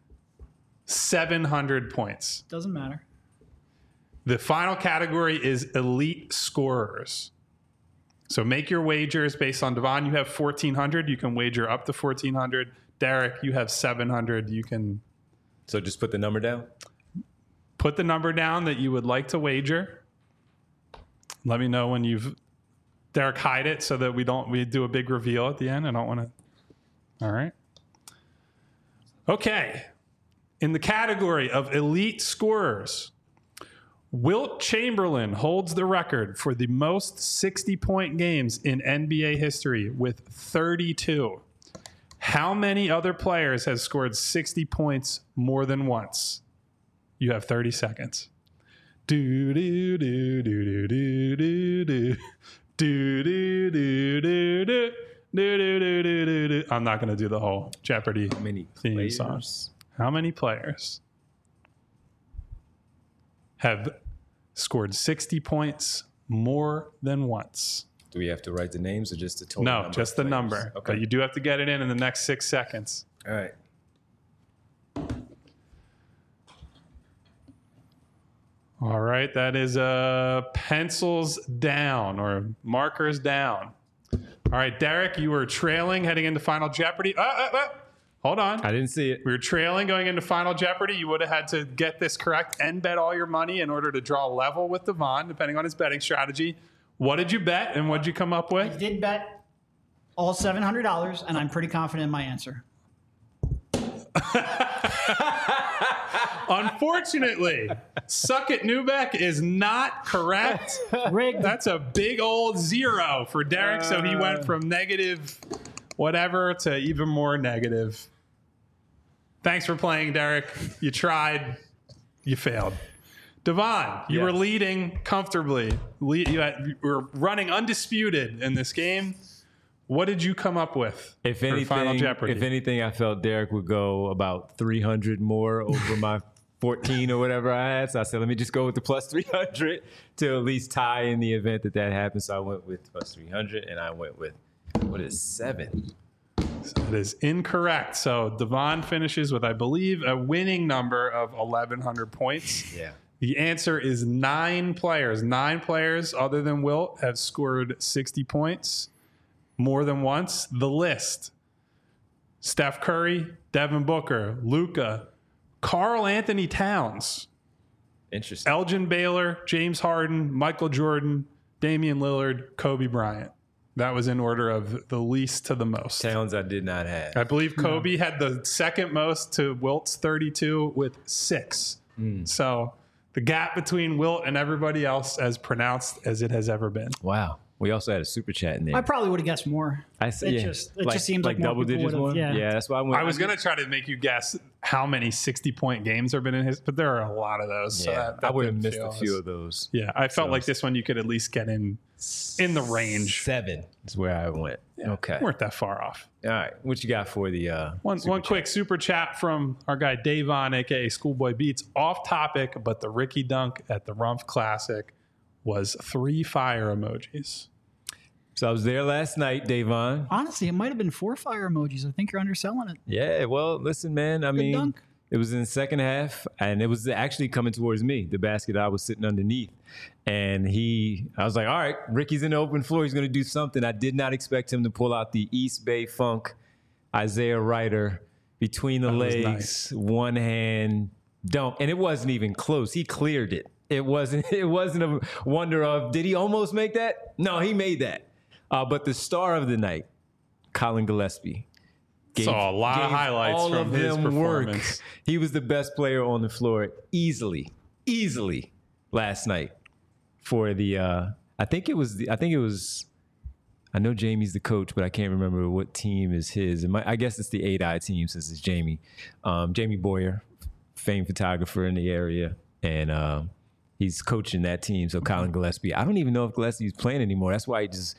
seven hundred points. Doesn't matter. The final category is elite scorers. So make your wagers based on Devon. You have fourteen hundred. You can wager up to fourteen hundred. Derek, you have seven hundred. You can So just put the number down. put the number down that you would like to wager. Let me know when you've Derek, hide it so that we don't we do a big reveal at the end. I don't want to. All right. Okay. In the category of elite scorers, Wilt Chamberlain holds the record for the most sixty-point games in N B A history with thirty-two. How many other players have scored sixty points more than once? You have thirty seconds. Do do do do do do do do do do do do do do do do do. I'm not going to do the whole Jeopardy How many theme players? song. How many players have scored sixty points more than once? Do we have to write the names or just the total? No, number just of the players? number. Okay. But you do have to get it in in the next six seconds. All right. All right, that is uh, pencils down or markers down. All right, Derek, you were trailing heading into Final Jeopardy. Uh, uh, uh, hold on. I didn't see it. We were trailing going into Final Jeopardy. You would have had to get this correct and bet all your money in order to draw level with Devon, depending on his betting strategy. What did you bet and what did you come up I with? did bet all seven hundred dollars, and I'm pretty confident in my answer. Unfortunately, Suck It Newbeck is not correct. Rigged. That's a big old zero for Derek. So he went from negative whatever to even more negative. Thanks for playing, Derek. You tried. You failed. Devon, you Yes. were leading comfortably. Le- You, had, you were running undisputed in this game. What did you come up with If for anything, Final Jeopardy? if anything, I felt Derek would go about three hundred more over my fourteen or whatever I had. So I said, let me just go with the plus three hundred to at least tie in the event that that happens. So I went with plus three hundred, and I went with, what is seven? That is incorrect. So Devon finishes with, I believe, a winning number of eleven hundred points. Yeah. The answer is nine players. Nine players other than Wilt have scored sixty points more than once. The list: Steph Curry, Devin Booker, Luka, Karl Anthony Towns, Interesting. Elgin Baylor, James Harden, Michael Jordan, Damian Lillard, Kobe Bryant. That was in order of the least to the most. Towns I did not have. I believe Kobe had the second most to Wilt's thirty-two with six. So the gap between Wilt and everybody else as pronounced as it has ever been. Wow. We also had a super chat in there. I probably would have guessed more. I s- it yeah. just it just seems like, more double people digits would've- one. Yeah. Yeah, that's why I went. I was going to try to make you guess how many sixty-point games there have been in his, but there are a lot of those. So Yeah, that, that I would have didn't missed feel a as- few of those. Yeah, I felt So- like this one you could at least get in in the range. Seven is where I went. Okay. We weren't that far off. All right. What you got for the uh, One, super one chat? quick super chat from our guy Davon, aka Schoolboy Beats. Off topic, but the Ricky Dunk at the Rumpf Classic was three fire emojis. So I was there last night, Davon. Honestly, it might have been four fire emojis. I think you're underselling it. Yeah. Well, listen, man. I Good mean, dunk. It was in the second half, and it was actually coming towards me, the basket I was sitting underneath. And he, I was like, all right, Ricky's in the open floor. He's going to do something. I did not expect him to pull out the East Bay Funk, Isaiah Ryder, between the legs, nice. One hand dunk. And it wasn't even close. He cleared it. It wasn't, it wasn't a wonder of, did he almost make that? No, he made that. Uh, but the star of the night, Colin Gillespie. Gave, Saw a lot of highlights all from of his them performance. Work. He was the best player on the floor easily, easily last night for the. Uh, I think it was. The, I think it was. I know Jamie's the coach, but I can't remember what team is his. It might, I guess it's the eight eye team since it's Jamie. Um, Jamie Boyer, famed photographer in the area, and uh, he's coaching that team. So Colin Gillespie. I don't even know if Gillespie's playing anymore. That's why he just.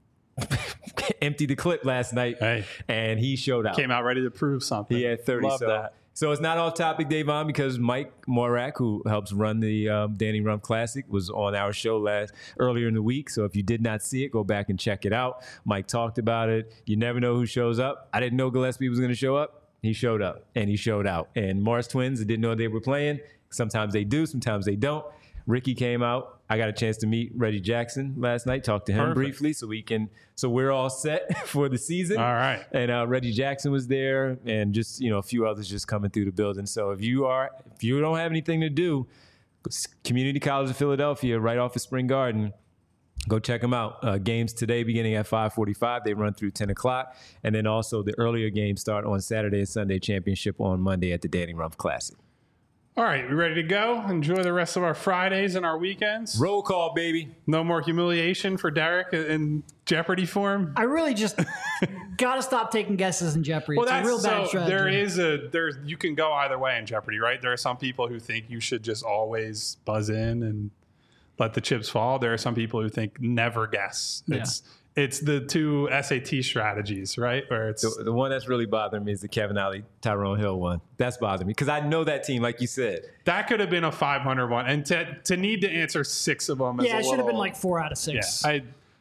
emptied the clip last night, hey, and he showed out. Came out ready to prove something. He had thirty. Love so, that. so it's not off topic, Davon, because Mike Morak, who helps run the um, Danny Rumpf Classic, was on our show last earlier in the week. So if you did not see it, go back and check it out. Mike talked about it. You never know who shows up. I didn't know Gillespie was going to show up. He showed up, and he showed out. And Mars Twins didn't know they were playing. Sometimes they do, sometimes they don't. Ricky came out. I got a chance to meet Reggie Jackson last night, talk to him Perfect. briefly so we can, so we're all set for the season. All right. And uh, Reggie Jackson was there and just, you know, a few others just coming through the building. So if you are, if you don't have anything to do, Community College of Philadelphia, right off of Spring Garden, go check them out. Uh, games today beginning at five forty-five. They run through ten o'clock. And then also the earlier games start on Saturday and Sunday, championship on Monday at the Danny Rumpf Classic. All right, we ready to go? Enjoy the rest of our Fridays and our weekends. Roll call, baby. No more humiliation for Derek in Jeopardy form. I really just got to stop taking guesses in Jeopardy. Well, it's that's a real bad so strategy. there is a there. You can go either way in Jeopardy, right? There are some people who think you should just always buzz in and let the chips fall. There are some people who think never guess. Yeah. It's it's the two S A T strategies, right? Where it's The, the one that's really bothering me is the Kevin Ollie, Tyrone Hill one. That's bothering me because I know that team, like you said. that could have been a five hundred one, and to to need to answer six of them. Is yeah, a it should have been little- like four out of six. Yeah, I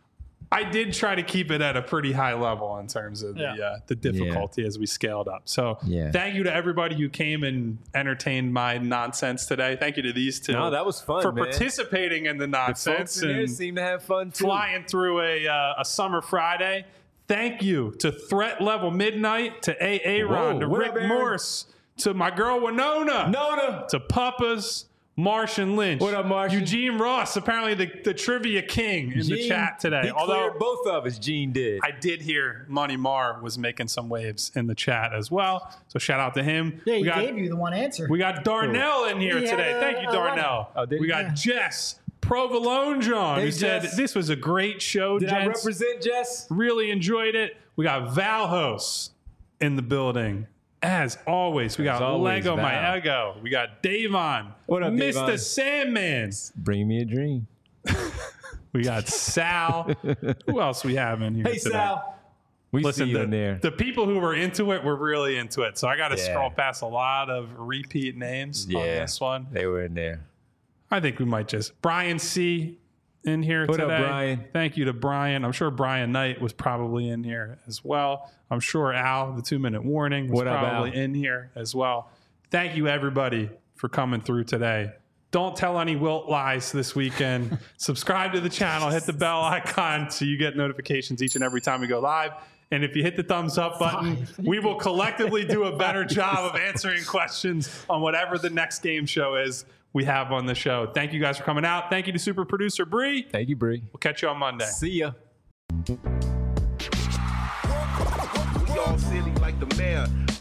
I did try to keep it at a pretty high level in terms of the Yeah. uh, the difficulty as we scaled up. So Yeah. thank you to everybody who came and entertained my nonsense today. Thank you to these two. No, that was fun, for man. participating in the The nonsense folks in there and seem to have fun too. flying through a uh, a summer Friday. Thank you to Threat Level Midnight, to A A Ron, Whoa, to what Rick up, Aaron? Morse, to my girl Winona, Nona. to Puppas, Martian Lynch. What up, Martian? Eugene Ross, apparently the, the trivia king in the Gene, chat today. He Although cleared both of us, Gene did. I did hear Money Marr was making some waves in the chat as well. So shout out to him. yeah, he we got, gave you the one answer. we got Darnell in here He had today. a- Thank you, a Darnell. Oh, did we he? got Yeah. Jess Provolone John, Hey, who said Jess. this was a great show, Did I gents. represent Jess? Really enjoyed it. We got Valhos in the building. As always, we got As always, Lego My Val. Ego. We got Davon. What up, Mister Davon? Sandman. Bring me a dream. We got Sal. Who else we have in here Hey, today? Sal. We Listen, see you the, in there. the people who were into it were really into it. So I got to Yeah. scroll past a lot of repeat names on Yeah. this one. They were in there. I think we might just Brian C. in here What up, today. Brian? Thank you to Brian. I'm sure Brian Knight was probably in here as well. I'm sure Al, the two minute warning, was What up, probably Al? in here as well. Thank you, everybody, for coming through today. Don't tell any Wilt lies this weekend. Subscribe to the channel, hit the bell icon so you get notifications each and every time we go live. And if you hit the thumbs up button, we will collectively do a better job of answering questions on whatever the next game show is we have on the show. Thank you guys for coming out. Thank you to super producer Bree. Thank you, Bree. We'll catch you on Monday. See ya. We all silly like the mayor.